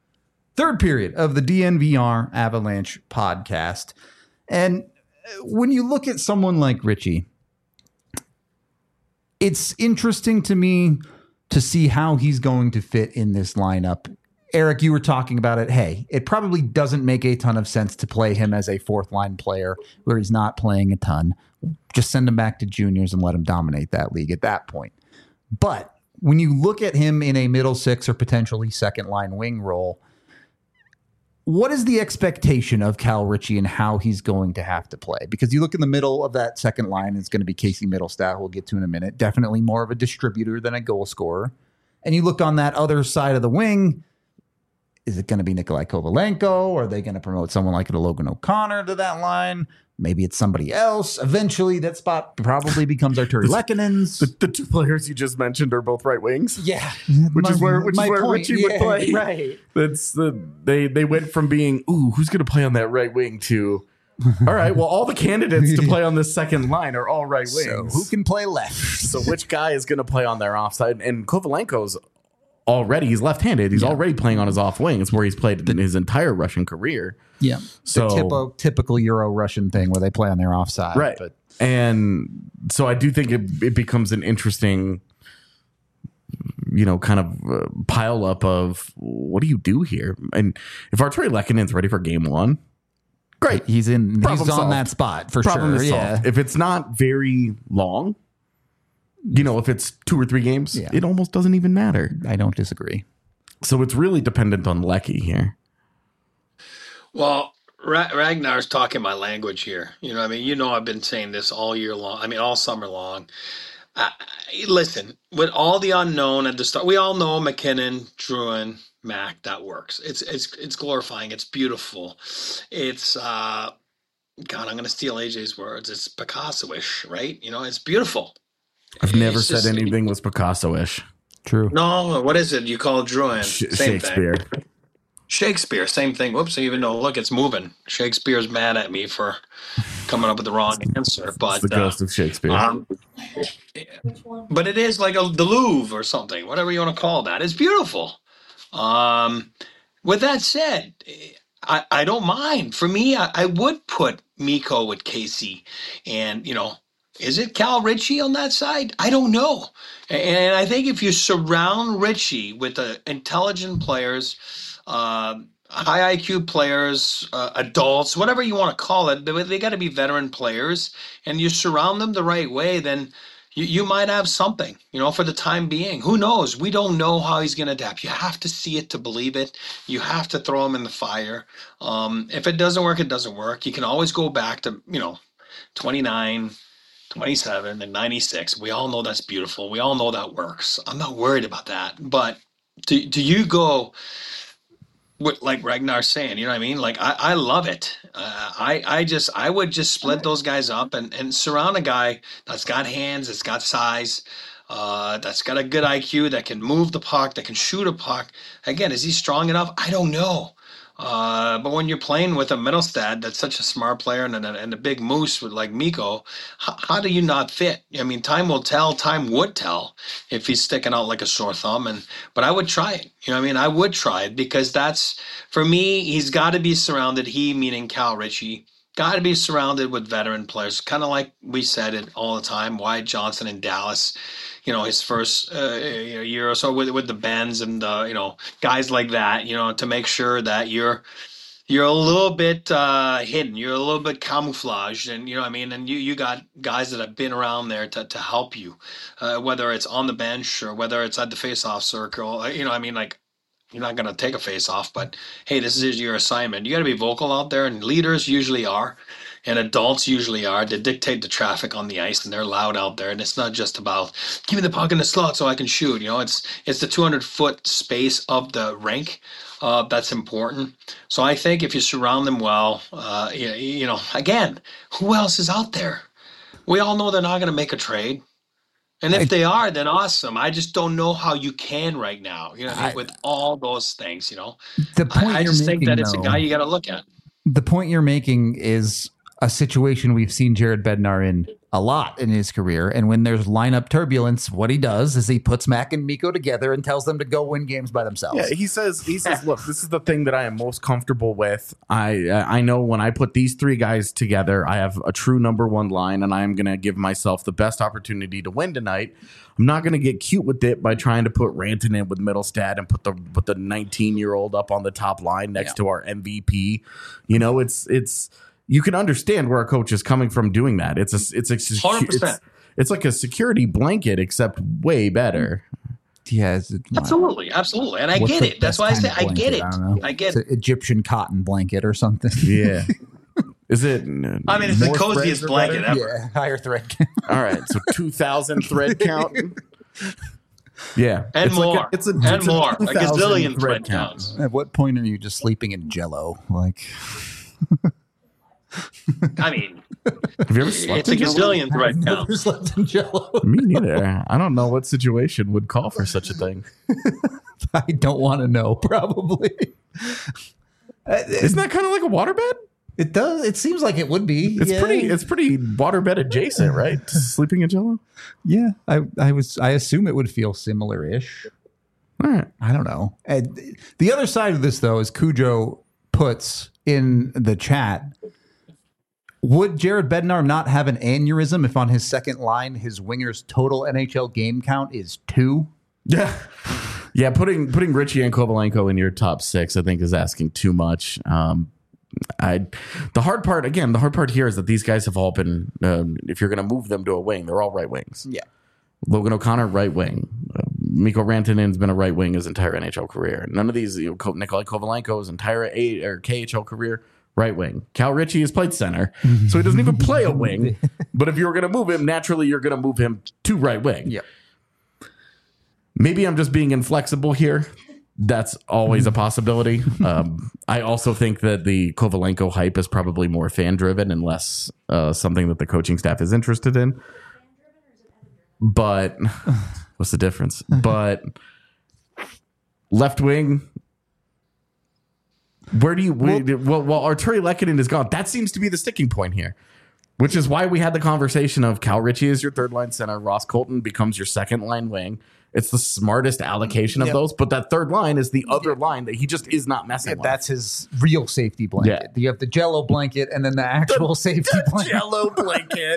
A: Third period of the D N V R Avalanche podcast. And when you look at someone like Richie, it's interesting to me to see how he's going to fit in this lineup. Eric, you were talking about it. Hey, it probably doesn't make a ton of sense to play him as a fourth line player where he's not playing a ton. Just send him back to juniors and let him dominate that league at that point. But when you look at him in a middle six or potentially second line wing role, what is the expectation of Cal Ritchie and how he's going to have to play? Because you look in the middle of that second line, it's going to be Casey Middlestat, we'll get to in a minute. Definitely more of a distributor than a goal scorer. And you look on that other side of the wing, is it going to be Nikolai Kovalenko? Or are they going to promote someone like a Logan O'Connor to that line? Maybe it's somebody else. Eventually, that spot probably becomes Arturi Lekkonen's.
B: The, the two players you just mentioned are both right wings.
A: Yeah,
B: which
A: my,
B: is where which is where
A: point.
B: Richie
A: yeah,
B: would play.
A: Right.
B: That's the they they went from being ooh who's going to play on that right wing to all right. Well, all the candidates to play on this second line are all right wings.
A: So who can play left?
B: So which guy is going to play on their offside? And Kovalenko's already he's left-handed. He's yeah. already playing on his off wing. It's where he's played in his entire Russian career.
A: Yeah.
B: So
A: the typical, typical Euro Russian thing where they play on their offside.
B: Right.
A: But.
B: And so I do think it, it becomes an interesting, you know, kind of uh, pile up of what do you do here? And if Arturi Lekkonen's ready for game one, great.
A: He's in.
B: Problem
A: he's on
B: solved.
A: that spot for
B: Problem
A: sure. Yeah.
B: Solved. If it's not very long, you know, if it's two or three games, yeah. it almost doesn't even matter.
A: I don't disagree.
B: So it's really dependent on Lecky here.
D: Well, Ra- Ragnar's talking my language here. You know, I mean, you know, I've been saying this all year long. I mean, all summer long. Uh, listen, with all the unknown at the start, we all know McKinnon, Drouin, Mac. That works. It's it's it's glorifying. It's beautiful. It's uh, God. I'm going to steal A J's words. It's Picasso-ish, right? You know, it's beautiful.
B: I've never
D: it's
B: said
D: just,
B: anything was Picasso-ish.
A: True.
D: No, what is it? You call Drouin?
B: Sh-
D: Same
B: Shakespeare.
D: thing. Shakespeare, same thing. Whoops, even though, look, it's moving. Shakespeare's mad at me for coming up with the wrong answer. But
B: It's the ghost
D: uh,
B: of Shakespeare.
D: um, but it is like a, the Louvre or something, whatever you want to call that. It's beautiful. Um, with that said, I, I don't mind. For me, I, I would put Mikko with Casey. And, you know, is it Cal Ritchie on that side? I don't know. And I think if you surround Ritchie with uh, intelligent players, uh, high I Q players, uh, adults, whatever you want to call it, they, they got to be veteran players, and you surround them the right way, then you, you might have something, you know, for the time being. Who knows? We don't know how he's going to adapt. You have to see it to believe it. You have to throw him in the fire. Um, if it doesn't work, it doesn't work. You can always go back to, you know, twenty-nine, twenty-seven, and ninety-six. We all know that's beautiful. We all know that works. I'm not worried about that. But do, do you go with, like Ragnar's saying, you know what I mean? Like, I, I love it. Uh, I, I just, I would just split those guys up and, and surround a guy that's got hands, that's got size, uh, that's got a good I Q, that can move the puck, that can shoot a puck. Again, is he strong enough? I don't know. Uh, but when you're playing with a Mittelstadt that's such a smart player and a, and a big moose with like Mikko, how, how do you not fit? I mean, time will tell. Time would tell if he's sticking out like a sore thumb. And but I would try it. You know what I mean? I would try it because that's, for me, he's got to be surrounded, he meaning Cal Ritchie, got to be surrounded with veteran players, kind of like we said it all the time, Wyatt Johnson in Dallas. You know, his first uh, year or so with with the Benz and uh, you know, guys like that. You know, to make sure that you're you're a little bit uh, hidden, you're a little bit camouflaged, and you know what I mean. And you you got guys that have been around there to to help you, uh, whether it's on the bench or whether it's at the face-off circle. You know, I mean, like, you're not going to take a face-off, but hey, this is your assignment. You got to be vocal out there, and leaders usually are. And adults usually are. They dictate the traffic on the ice, and they're loud out there. And it's not just about give me the puck in the slot so I can shoot. You know, it's it's the two hundred foot space of the rink uh, that's important. So I think if you surround them well, uh, you, you know, again, who else is out there? We all know they're not going to make a trade. And if I, they are, then awesome. I just don't know how you can right now. You know, I, with all those things. You know,
A: the point
D: I, I just
A: making,
D: think that it's
A: though,
D: a guy you got to look at.
A: The point you're making is a situation we've seen Jared Bednar in a lot in his career. And when there's lineup turbulence, what he does is he puts Mac and Mikko together and tells them to go win games by themselves.
B: Yeah, he says, he says, look, this is the thing that I am most comfortable with. I I know when I put these three guys together, I have a true number one line, and I am going to give myself the best opportunity to win tonight. I'm not going to get cute with it by trying to put Rantanen with Mittelstadt and put the put the nineteen-year-old up on the top line next yeah. to our M V P. You know, it's it's. You can understand where a coach is coming from doing that. It's a, it's a, secu- it's, it's like a security blanket, except way better.
A: Yeah, it,
D: absolutely, absolutely, and I get it. That's why I say I get it. I, I get
A: it's
D: it.
A: An Egyptian cotton blanket or something.
B: Yeah. Is it?
D: I mean, it's the coziest blanket ever.
A: Yeah, higher thread.
B: All right, so two thousand thread count. Yeah,
D: and
B: it's
D: more.
B: Like a, it's a,
D: and
B: it's
D: more.
B: A,
D: a gazillion thread counts.
A: At what point are you just sleeping in Jello? Like.
D: I mean,
B: have you ever slept
D: it's
B: in
D: a gazillion
B: Jello?
D: thread counts.
A: Slept in Jello.
B: Me neither. I don't know what situation would call for such a thing.
A: I don't want to know. Probably.
B: Isn't that kind of like a waterbed?
A: It does. It seems like it would be.
B: It's
A: yeah.
B: pretty. It's pretty waterbed adjacent, right? Sleeping in Jello.
A: Yeah, I, I was. I assume it would feel similar-ish.
B: All right.
A: I don't know. And the other side of this, though, is Cujo puts in the chat. Would Jared Bednar not have an aneurysm if on his second line his winger's total N H L game count is two?
B: Yeah. Yeah, putting putting Ritchie and Kovalenko in your top six, I think, is asking too much. Um, I the hard part, again, the hard part here is that these guys have all been, um, if you're going to move them to a wing, they're all right wings.
A: Yeah.
B: Logan O'Connor, right wing. Uh, Mikko Rantanen's been a right wing his entire N H L career. None of these, you know, Nikolai Kovalenko's entire A or K H L career, right wing. Cal Ritchie has played center, so he doesn't even play a wing. But if you were going to move him, naturally you're going to move him to right wing.
A: Yep.
B: Maybe I'm just being inflexible here. That's always a possibility. Um, I also think that the Kovalenko hype is probably more fan driven and less uh, something that the coaching staff is interested in. But what's the difference? But left wing, Where do you well, well, well Arturi Lehkonen is gone. That seems to be the sticking point here, which is why we had the conversation of Cal Ritchie is your third line center, Ross Colton becomes your second line wing. It's the smartest allocation of yep. those, but that third line is the other line that he just is not messing
A: yeah,
B: with.
A: That's his real safety blanket. Yeah. You have the Jello blanket and then the actual the, safety
B: the
A: blanket.
B: Jello blanket.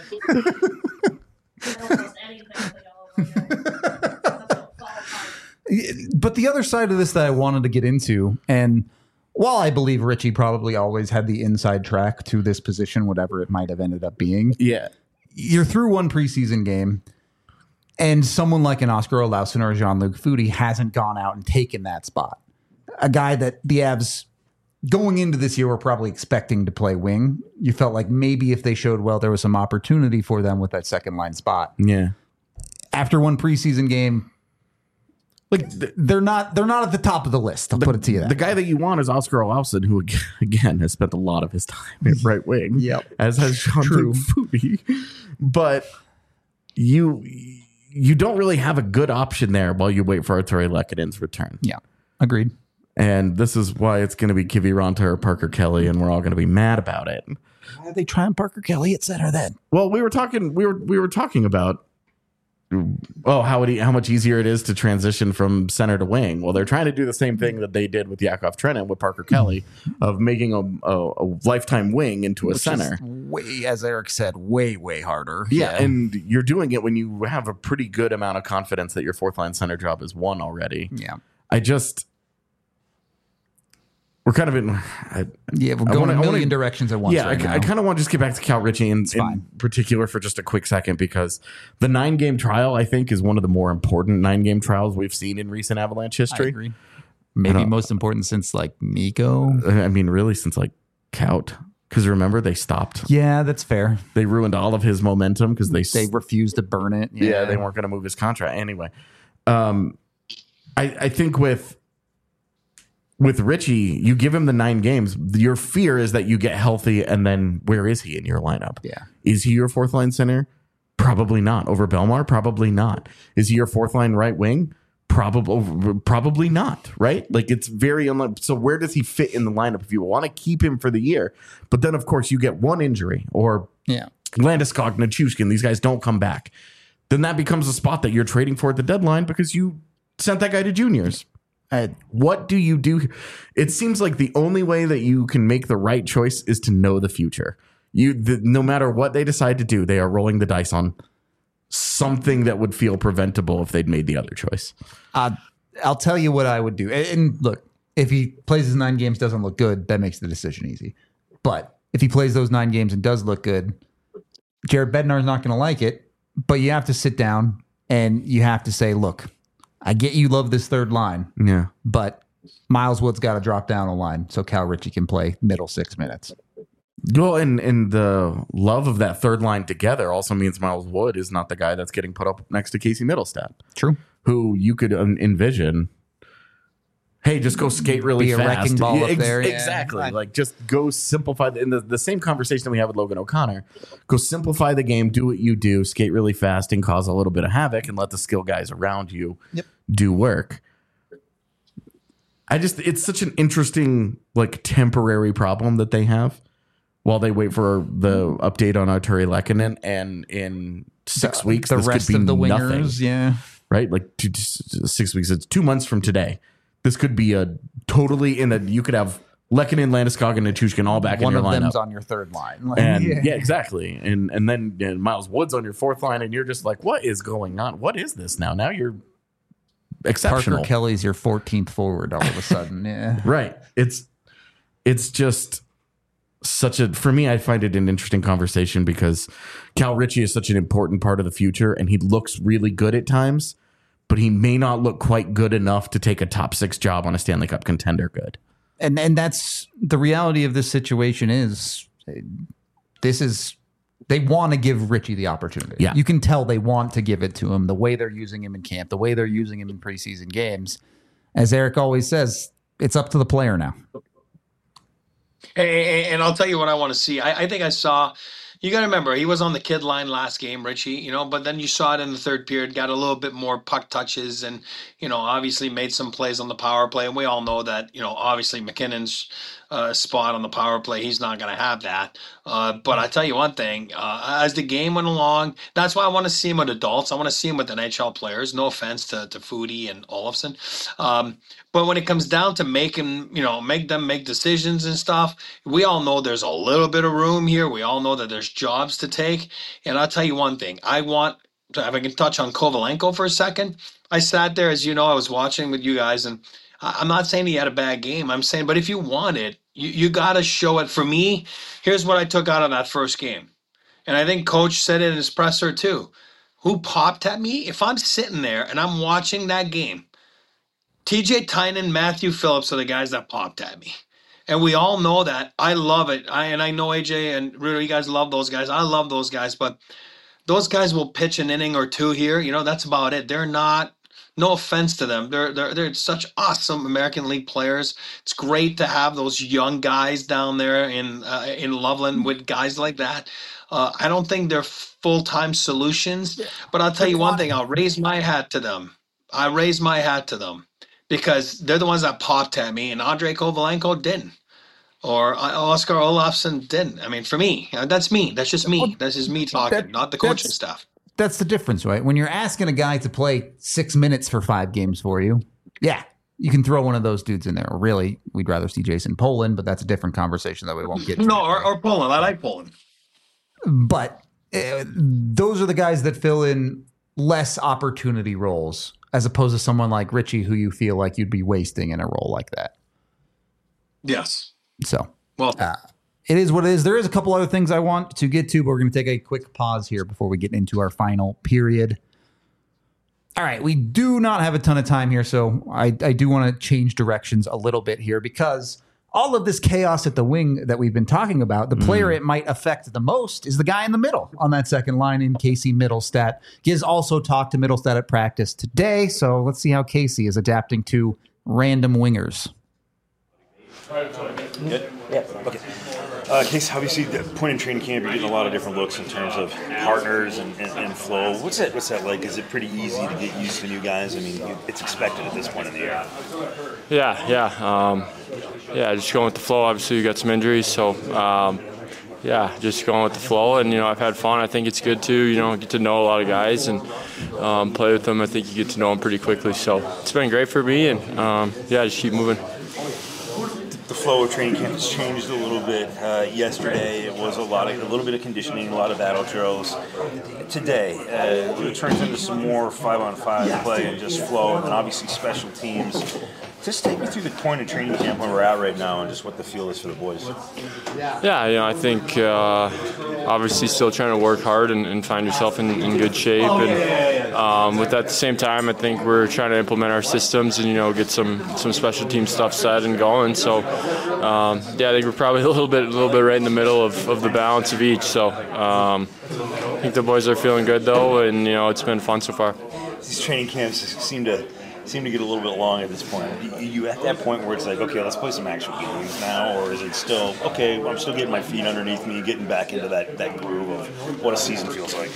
A: But the other side of this that I wanted to get into, and while I believe Ritchie probably always had the inside track to this position, whatever it might have ended up being,
B: yeah,
A: you're through one preseason game. And someone like an Oscar Olausson or a Jean-Luc Foudy hasn't gone out and taken that spot. A guy that the Avs going into this year were probably expecting to play wing. You felt like maybe if they showed well, there was some opportunity for them with that second line spot.
B: Yeah.
A: After one preseason game, like they're not they're not at the top of the list. I'll
B: the,
A: put it to you that
B: the guy that you want is Oscar Olausson, who again has spent a lot of his time at right wing.
A: Yep.
B: As has Jean-Luc Foudy. But you you don't really have a good option there while you wait for Arturi Lehkonen's return.
A: Yeah, agreed.
B: And this is why it's going to be Kivi Ronta or Parker Kelly, and we're all going to be mad about it.
A: Why are they trying Parker Kelly at center then?
B: Well, we were talking. We were we were talking about oh how it, how much easier it is to transition from center to wing. Well, they're trying to do the same thing that they did with Yakov Trenin with Parker Kelly of making a, a, a lifetime wing into a
A: Which
B: center.
A: Is way, as Eric said, way way harder.
B: Yeah, yeah, and you're doing it when you have a pretty good amount of confidence that your fourth line center job is won already.
A: Yeah,
B: I just. We're kind of in. I,
A: yeah, we're going wanna, a million wanna, directions at once.
B: Yeah,
A: right
B: I, I kind of want to just get back to Cal Ritchie in, in particular for just a quick second, because the nine game trial, I think, is one of the more important nine game trials we've seen in recent Avalanche history.
A: I agree. Maybe I most important since like Mikko.
B: I mean, really, since like Kaut. Because remember, they stopped.
A: Yeah, that's fair.
B: They ruined all of his momentum because they
A: they refused to burn it.
B: Yeah, yeah they weren't going to move his contract anyway. Um, I, I think with. With Ritchie, you give him the nine games. Your fear is that you get healthy, and then where is he in your lineup?
A: Yeah.
B: Is he your fourth line center? Probably not. Over Belmar? Probably not. Is he your fourth line right wing? Probably, probably not. Right? Like, it's very unlikely. So where does he fit in the lineup if you want to keep him for the year? But then, of course, you get one injury, or
A: yeah,
B: Landeskog, Nichushkin, these guys don't come back. Then that becomes a spot that you're trading for at the deadline because you sent that guy to juniors. Uh, what do you do? It seems like the only way that you can make the right choice is to know the future. You, the, no matter what they decide to do, they are rolling the dice on something that would feel preventable if they'd made the other choice.
A: Uh, I'll tell you what I would do. And, and look, if he plays his nine games, doesn't look good, that makes the decision easy. But if he plays those nine games and does look good, Jared Bednar's not going to like it. But you have to sit down and you have to say, look, I get you love this third line,
B: yeah,
A: but Miles Wood's got to drop down a line so Cal Ritchie can play middle six minutes.
B: Well, and, and the love of that third line together also means Miles Wood is not the guy that's getting put up next to Casey Middlestat.
A: True.
B: Who you could um, envision, hey, just go skate really
A: Be a
B: fast.
A: wrecking ball
B: yeah,
A: up
B: ex-
A: there. Yeah.
B: Exactly. Like, just go simplify. The, in the, the same conversation that we have with Logan O'Connor, go simplify the game, do what you do, skate really fast and cause a little bit of havoc and let the skill guys around you
A: yep.
B: do work. I just, it's such an interesting, like, temporary problem that they have while they wait for the update on Arturi Lehkonen, and in six
A: the,
B: weeks,
A: the
B: this
A: rest
B: could be
A: of the
B: nothing,
A: wingers, yeah,
B: right? Like two, six weeks, it's two months from today. This could be a totally in a, you could have Lehkonen, Landeskog, and Nichushkin all back
A: One
B: in your
A: of
B: lineup.
A: them's on your third line. Like,
B: and
A: yeah.
B: yeah, exactly. And and then and Miles Wood's on your fourth line, and you're just like, what is going on? What is this now? Now you're exceptional.
A: Parker Kelly's your fourteenth forward all of a sudden. Yeah.
B: Right. It's it's just such a, for me, I find it an interesting conversation because Cal Ritchie is such an important part of the future, and he looks really good at times, but he may not look quite good enough to take a top six job on a Stanley Cup contender good.
A: And and that's the reality of this situation is this is they want to give Ritchie the opportunity.
B: Yeah.
A: You can tell they want to give it to him, the way they're using him in camp, the way they're using him in preseason games. As Eric always says, it's up to the player now.
D: And, and I'll tell you what I want to see. I, I think I saw, you got to remember, he was on the kid line last game, Richie, you know, but then you saw it in the third period, got a little bit more puck touches and, you know, obviously made some plays on the power play. And we all know that, you know, obviously McKinnon's uh, spot on the power play, he's not going to have that. Uh, but I tell you one thing, uh, as the game went along, that's why I want to see him with adults. I want to see him with N H L players. No offense to, to Foodie and Olofsson. Um, but when it comes down to making, you know, make them make decisions and stuff, we all know there's a little bit of room here. We all know that there's jobs to take. And I'll tell you one thing. I want to, if I can touch on Kovalenko for a second. I sat there, as you know, I was watching with you guys, and I'm not saying he had a bad game. I'm saying, but if you want it, you, you got to show it. For me, here's what I took out of that first game. And I think Coach said it in his presser too. Who popped at me? If I'm sitting there and I'm watching that game, T J Tynan, Matthew Phillips are the guys that popped at me. And we all know that. I love it. I And I know A J and Rudo, you guys love those guys. I love those guys. But those guys will pitch an inning or two here. You know, that's about it. They're not, no offense to them. They're, they're, they're such awesome American League players. It's great to have those young guys down there in, uh, in Loveland with guys like that. Uh, I don't think they're full-time solutions. But I'll tell you one thing. I'll raise my hat to them. I raise my hat to them. Because they're the ones that popped at me, and Andrei Kovalenko didn't, or Oscar Olofsson didn't. I mean, for me, that's me. That's just me. That's just me talking,
A: that,
D: not the coaching staff.
A: That's the difference, right? When you're asking a guy to play six minutes for five games for you, yeah, you can throw one of those dudes in there. Or really, we'd rather see Jason Poland, but that's a different conversation that we won't get to.
D: No, or, or Poland. I like Poland.
A: But uh, those are the guys that fill in less opportunity roles, as opposed to someone like Richie, who you feel like you'd be wasting in a role like that.
D: Yes.
A: So,
D: well,
A: uh, it is what it is. There is a couple other things I want to get to, but we're going to take a quick pause here before we get into our final period. All right. We do not have a ton of time here, so I, I do want to change directions a little bit here, because all of this chaos at the wing that we've been talking about, the player mm. it might affect the most is the guy in the middle on that second line in Casey Mittelstadt. Giz also talked to Mittelstadt at practice today, so let's see how Casey is adapting to random wingers.
I: Good? Yeah. Okay. Uh, Casey, obviously, the point in training camp, you're getting a lot of different looks in terms of partners and, and, and flow. What's that? What's that like? Is it pretty easy to get used to new guys? I mean, you, it's expected at this point in the year.
H: Yeah, yeah, um, yeah. Just going with the flow. Obviously, you got some injuries, so um, yeah, just going with the flow. And you know, I've had fun. I think it's good to you know get to know a lot of guys and um, play with them. I think you get to know them pretty quickly. So it's been great for me, and um, yeah, just keep moving.
I: The flow of training camp has changed a little bit. Uh, yesterday, it was a lot of a little bit of conditioning, a lot of battle drills. Today, uh, it turns into some more five-on-five play and just flow, and then obviously special teams. Just take me through the point of training camp where we're at right now and just what the feel is for the boys.
H: Yeah, you know, I think uh, obviously still trying to work hard and, and find yourself in, in good shape. And um, with that at the same time, I think we're trying to implement our systems and, you know, get some, some special team stuff set and going. So, um, yeah, I think we're probably a little bit a little bit right in the middle of, of the balance of each. So um, I think the boys are feeling good, though, and, you know, it's been fun so far.
I: These training camps seem to seem to get a little bit long at this point. Are you at that point where it's like, okay, let's play some actual games now, or is it still, okay, I'm still getting my feet underneath me, getting back into that, that groove of what a season feels like?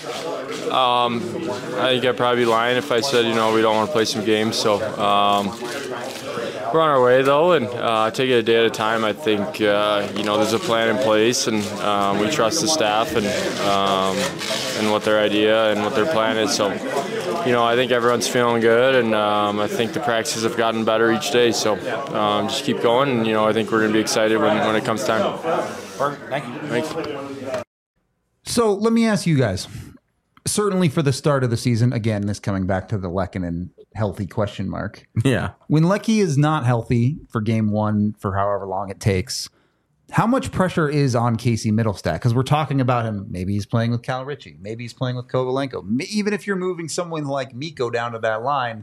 H: Um, I think I'd probably be lying if I said, you know, we don't want to play some games. So um, we're on our way, though, and uh, take it a day at a time. I think, uh, you know, there's a plan in place, and um, we trust the staff and, um, and what their idea and what their plan is. So, you know, I think everyone's feeling good, and um, I think the practices have gotten better each day. So um, just keep going, and, you know, I think we're going to be excited when, when it comes time.
I: Perfect. Thank you.
H: Thanks.
A: So let me ask you guys, certainly for the start of the season, again, this coming back to the Lehkonen healthy question mark.
B: Yeah.
A: When Lecky is not healthy for game one, for however long it takes, how much pressure is on Casey Mittelstadt? Because we're talking about him. Maybe he's playing with Cal Ritchie. Maybe he's playing with Kovalenko. Even if you're moving someone like Mikko down to that line,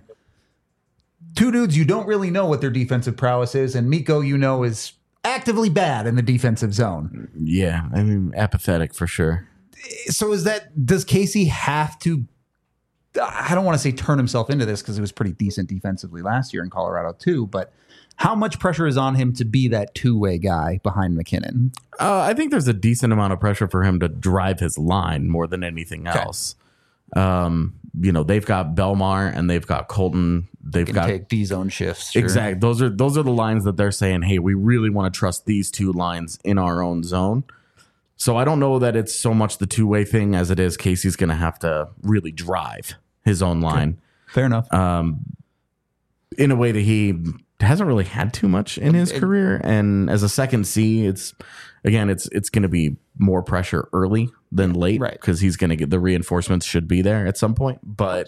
A: two dudes, you don't really know what their defensive prowess is. And Mikko, you know, is actively bad in the defensive zone.
B: Yeah, I mean, apathetic for sure.
A: So is that, does Casey have to I don't want to say turn himself into this because he was pretty decent defensively last year in Colorado too, but how much pressure is on him to be that two-way guy behind McKinnon?
B: Uh, I think there's a decent amount of pressure for him to drive his line more than anything else. Okay. Um, you know, they've got Belmar and they've got Colton. They've got
A: take D zone shifts. Sure.
B: Exactly. Those are those are the lines that they're saying, hey, we really want to trust these two lines in our own zone. So I don't know that it's so much the two-way thing as it is Casey's going to have to really drive his own line.
A: Okay. Fair enough.
B: Um, in a way that he hasn't really had too much in his
A: it,
B: career. And as a second C, it's again, it's it's going to be more pressure early than late,
A: right?
B: Because he's going to get the reinforcements should be there at some point. But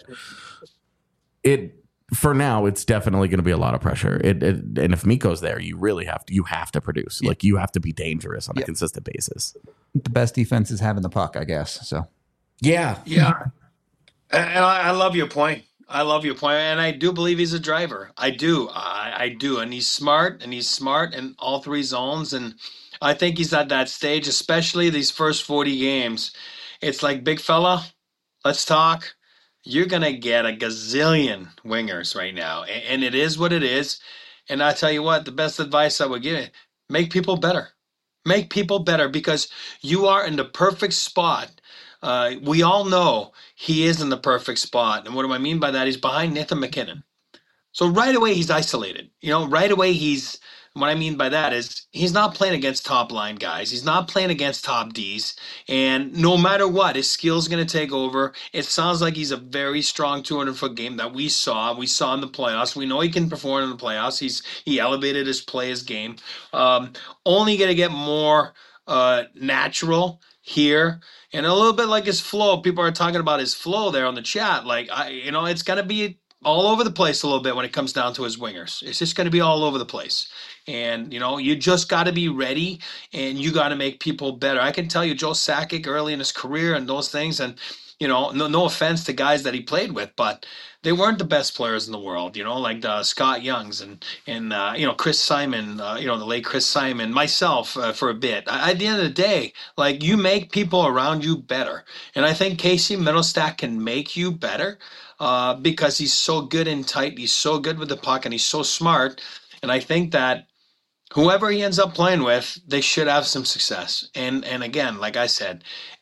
B: it for now, it's definitely going to be a lot of pressure. It, it and if Mikko's there, you really have to you have to produce. Yeah. Like you have to be dangerous on yeah. a consistent basis.
A: The best defense is having the puck, I guess. So
B: yeah,
D: yeah. And I, I love your point. I love your point, and I do believe he's a driver. I do, I, I do, and he's smart, and he's smart in all three zones, and I think he's at that stage, especially these first forty games. It's like, big fella, let's talk. You're gonna get a gazillion wingers right now, and, and it is what it is. And I tell you what, the best advice I would give you: make people better, make people better, because you are in the perfect spot. Uh, we all know he is in the perfect spot. And what do I mean by that? He's behind Nathan McKinnon. So right away, he's isolated. You know, right away, he's, what I mean by that is he's not playing against top line guys. He's not playing against top Ds. And no matter what, his skill's going to take over. It sounds like he's a very strong two hundred foot game that we saw. We saw in the playoffs. We know he can perform in the playoffs. He's He elevated his play, his game. Um, only going to get more uh, natural here. And a little bit like his flow. People are talking about his flow there on the chat. Like, I, you know, it's going to be all over the place a little bit when it comes down to his wingers. It's just going to be all over the place. And, you know, you just got to be ready and you got to make people better. I can tell you Joe Sakic early in his career and those things. And, you know, no, no offense to guys that he played with, but they weren't the best players in the world, you know, like uh, Scott Youngs and, and uh, you know, Chris Simon, uh, you know, the late Chris Simon, myself uh, for a bit. I, at the end of the day, like, you make people around you better. And I think Casey Mittelstadt can make you better uh, because he's so good and tight. He's so good with the puck and he's so smart. And I think that whoever he ends up playing with, they should have some success. And, and again, like I said,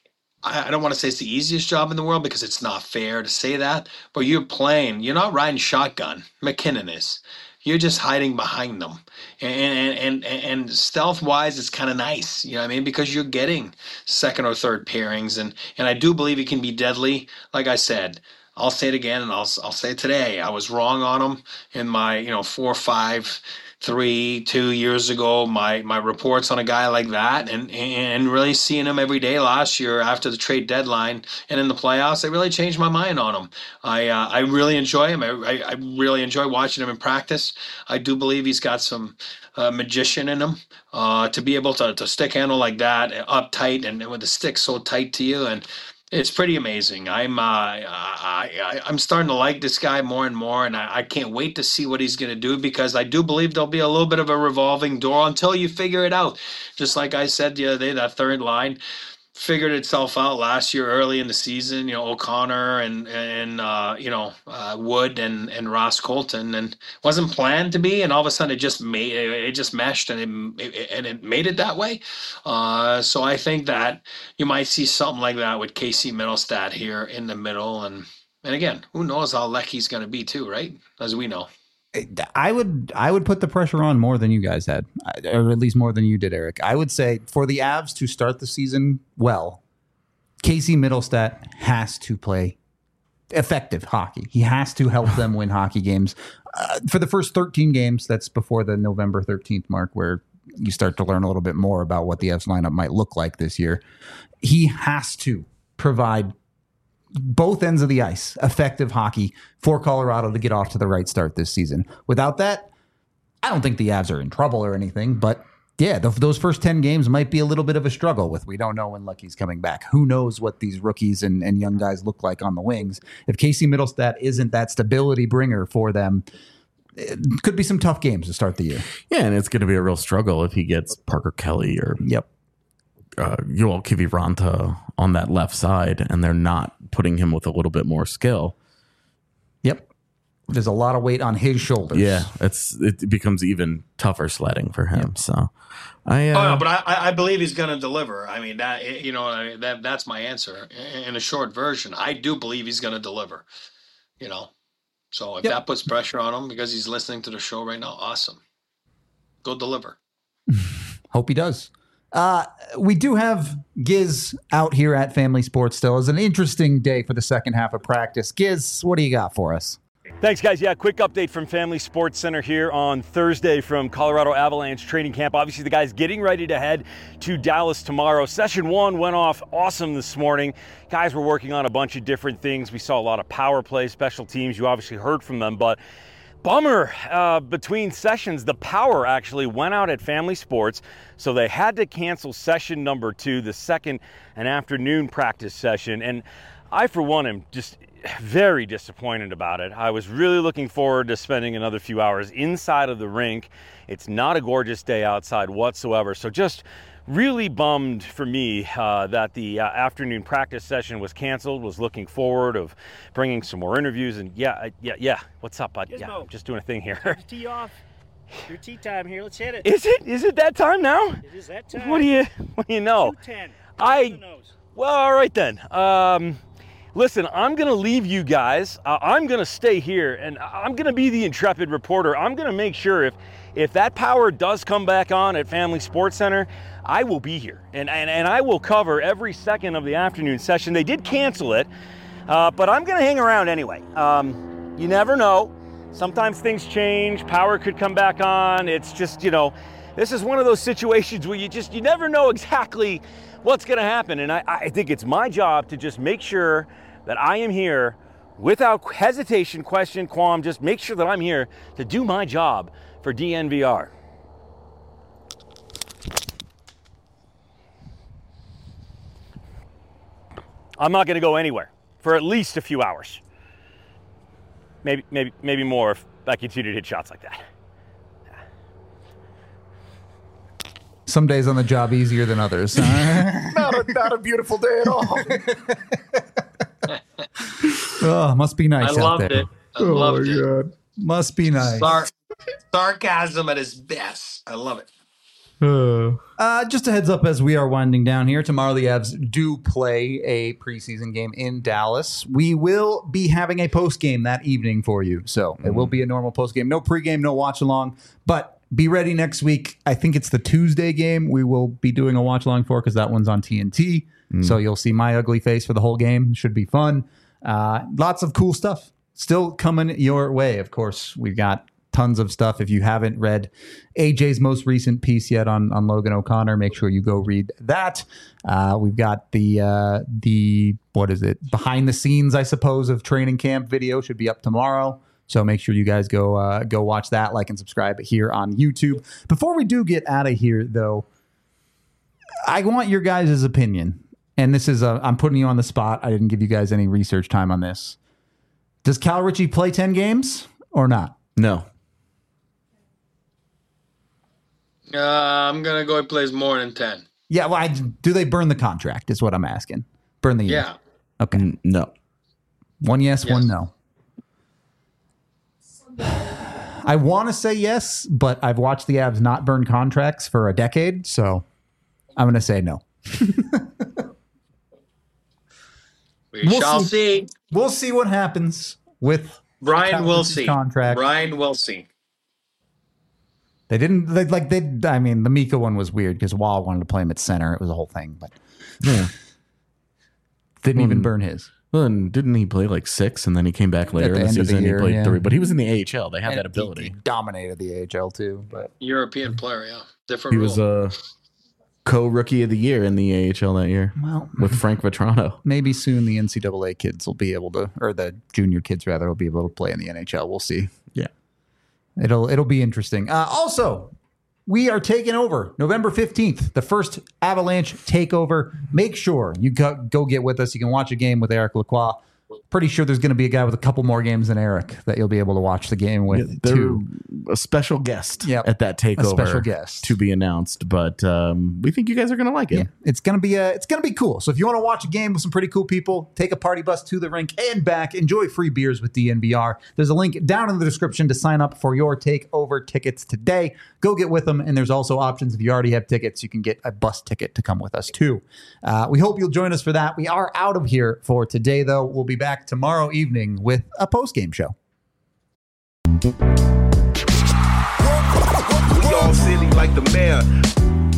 D: I don't want to say it's the easiest job in the world because it's not fair to say that, but you're playing, you're not riding shotgun. McKinnon is. You're just hiding behind them. And and and, and stealth-wise, it's kind of nice, you know what I mean? Because you're getting second or third pairings, and, and I do believe he can be deadly. Like I said, I'll say it again, and I'll I'll say it today. I was wrong on him in my, you know, four, five, three, two years ago, my my reports on a guy like that, and and really seeing him every day last year after the trade deadline and in the playoffs, I really changed my mind on him. I uh, I really enjoy him. I, I I really enjoy watching him in practice. I do believe he's got some uh, magician in him uh, to be able to to stick handle like that up tight and with the stick so tight to you, and it's pretty amazing. I'm uh, I, I, I'm starting to like this guy more and more, and I, I can't wait to see what he's going to do because I do believe there'll be a little bit of a revolving door until you figure it out. Just like I said the other day, that third line figured itself out last year early in the season. You know, O'Connor and and uh, you know uh, Wood and and Ross Colton, and wasn't planned to be, and all of a sudden it just made it just meshed and it, it and it made it that way. Uh, so I think that you might see something like that with Casey Mittelstadt here in the middle, and and again, who knows how Lecky's going to be too, right? As we know.
A: I would I would put the pressure on more than you guys had, or at least more than you did, Eric. I would say for the Avs to start the season well, Casey Mittelstadt has to play effective hockey. He has to help them win hockey games. Uh, for the first thirteen games, that's before the November thirteenth mark, where you start to learn a little bit more about what the Avs lineup might look like this year. He has to provide both ends of the ice, effective hockey for Colorado to get off to the right start this season. Without that, I don't think the Avs are in trouble or anything, but yeah, the, those first ten games might be a little bit of a struggle with. We don't know when Lucky's coming back. Who knows what these rookies and, and young guys look like on the wings. If Casey Mittelstadt isn't that stability bringer for them, it could be some tough games to start the year.
B: Yeah, and it's going to be a real struggle if he gets Parker Kelly or
A: yep.
B: uh, Yoel Kiviranta on that left side, and they're not putting him with a little bit more skill.
A: Yep. There's a lot of weight on his shoulders.
B: Yeah, it's it becomes even tougher sledding for him. Yep. So, I uh,
D: oh no, but I, I believe he's going to deliver. I mean that you know that that's my answer in a short version. I do believe he's going to deliver. You know, so if yep. that puts pressure on him because he's listening to the show right now, awesome. Go deliver.
A: Hope he does. Uh, we do have Giz out here at Family Sports still. It's an interesting day for the second half of practice. Giz, what do you got for us?
F: Thanks, guys. Yeah, quick update from Family Sports Center here on Thursday from Colorado Avalanche training camp. Obviously, the guys getting ready to head to Dallas tomorrow. Session one went off awesome this morning. Guys were working on a bunch of different things. We saw a lot of power play, special teams. You obviously heard from them, but bummer, uh, between sessions, the power actually went out at Family Sports, so they had to cancel session number two, the second and afternoon practice session. And I, for one, am just very disappointed about it. I was really looking forward to spending another few hours inside of the rink. It's not a gorgeous day outside whatsoever, so just really bummed for me uh, that the uh, afternoon practice session was canceled. Was looking forward of bringing some more interviews. And yeah, I, yeah, yeah. What's up, bud? Gizmo, yeah, I'm just doing a thing here.
J: Tee off. Your tea time here. Let's hit it.
F: Is it? Is it that time now?
J: It is that time.
F: What do you? What do you know?
J: two ten.
F: I. Well, all right then. Um, listen, I'm gonna leave you guys. Uh, I'm gonna stay here, and I'm gonna be the intrepid reporter. I'm gonna make sure if if that power does come back on at Family Sports Center, I will be here, and, and, and I will cover every second of the afternoon session. They did cancel it, uh, but I'm going to hang around anyway. Um, you never know. Sometimes things change. Power could come back on. It's just, you know, this is one of those situations where you just, you never know exactly what's going to happen. And I, I think it's my job to just make sure that I am here without hesitation, question, qualm. Just make sure that I'm here to do my job for D N V R. I'm not going to go anywhere for at least a few hours. Maybe, maybe, maybe more if I continue to hit shots like that.
A: Some days on the job easier than others.
B: not, a, not a beautiful day at all.
A: Oh, must be nice
D: I
A: out
D: loved
A: there.
D: it. I loved it.
A: God. Must be nice.
D: Sar- sarcasm at its best. I love it.
A: Uh, just a heads up as we are winding down here. Tomorrow the Avs do play a preseason game in Dallas. We will be having a post game that evening for you. So mm-hmm. It will be a normal post game. No pregame, no watch along. But be ready next week. I think it's the Tuesday game we will be doing a watch along for because that one's on T N T. Mm. So you'll see my ugly face for the whole game. Should be fun. Uh, lots of cool stuff still coming your way. Of course, we've got tons of stuff. If you haven't read A J's most recent piece yet on, on Logan O'Connor, make sure you go read that. Uh, we've got the, uh, the what is it, behind the scenes, I suppose, of training camp video should be up tomorrow. So make sure you guys go uh, go watch that, like and subscribe here on YouTube. Before we do get out of here, though, I want your guys' opinion. And this is, a, I'm putting you on the spot. I didn't give you guys any research time on this. Does Cal Ritchie play ten games or not?
B: No.
D: Uh, I'm going to go he plays more than ten.
A: Yeah, well, I, do they burn the contract is what I'm asking. Burn the year.
D: Yeah.
A: Okay.
B: N- no.
A: One yes,
D: yes.
A: one no. I want to say yes, but I've watched the Avs not burn contracts for a decade, so I'm going to say no.
D: we
A: we'll
D: shall
A: see.
D: see.
A: We'll see what happens with
D: Brian will see.
A: Contract.
D: Brian will see.
A: They didn't they, like they. I mean, the Mika one was weird because Wall wanted to play him at center. It was a whole thing, but
B: yeah,
A: didn't
B: well,
A: even burn his.
B: Well, and didn't he play like six, and then he came back later in the season and he played
A: yeah.
B: three? But he was in the A H L. They had
A: and
B: that ability.
A: He, he dominated the A H L too. But
D: European player, yeah, different.
B: He
D: rule.
B: was a co-rookie of the year in the A H L that year.
A: Well,
B: with Frank Vetrano.
A: Maybe soon the N C double A kids will be able to, or the junior kids rather, will be able to play in the N H L. We'll see.
B: Yeah,
A: it'll it'll be interesting. Uh, also. We are taking over November fifteenth, the first Avalanche takeover. Make sure you go, go get with us. You can watch a game with Eric Lacroix pretty sure there's going to be a guy with a couple more games than Eric that you'll be able to watch the game with
B: Yeah, they're
A: too.
B: a special guest
A: Yep.
B: at that takeover.
A: A special guest.
B: to be announced, but um, we think you guys are going to like it.
A: Yeah, it's gonna be uh, it's gonna be cool. So if you want to watch a game with some pretty cool people, take a party bus to the rink and back. Enjoy free beers with D N V R. There's a link down in the description to sign up for your takeover tickets today. Go get with them, and there's also options if you already have tickets. You can get a bus ticket to come with us too. Uh, we hope you'll join us for that. We are out of here for today, though. We'll be back tomorrow evening with a post game show.
K: We all silly like the mayor.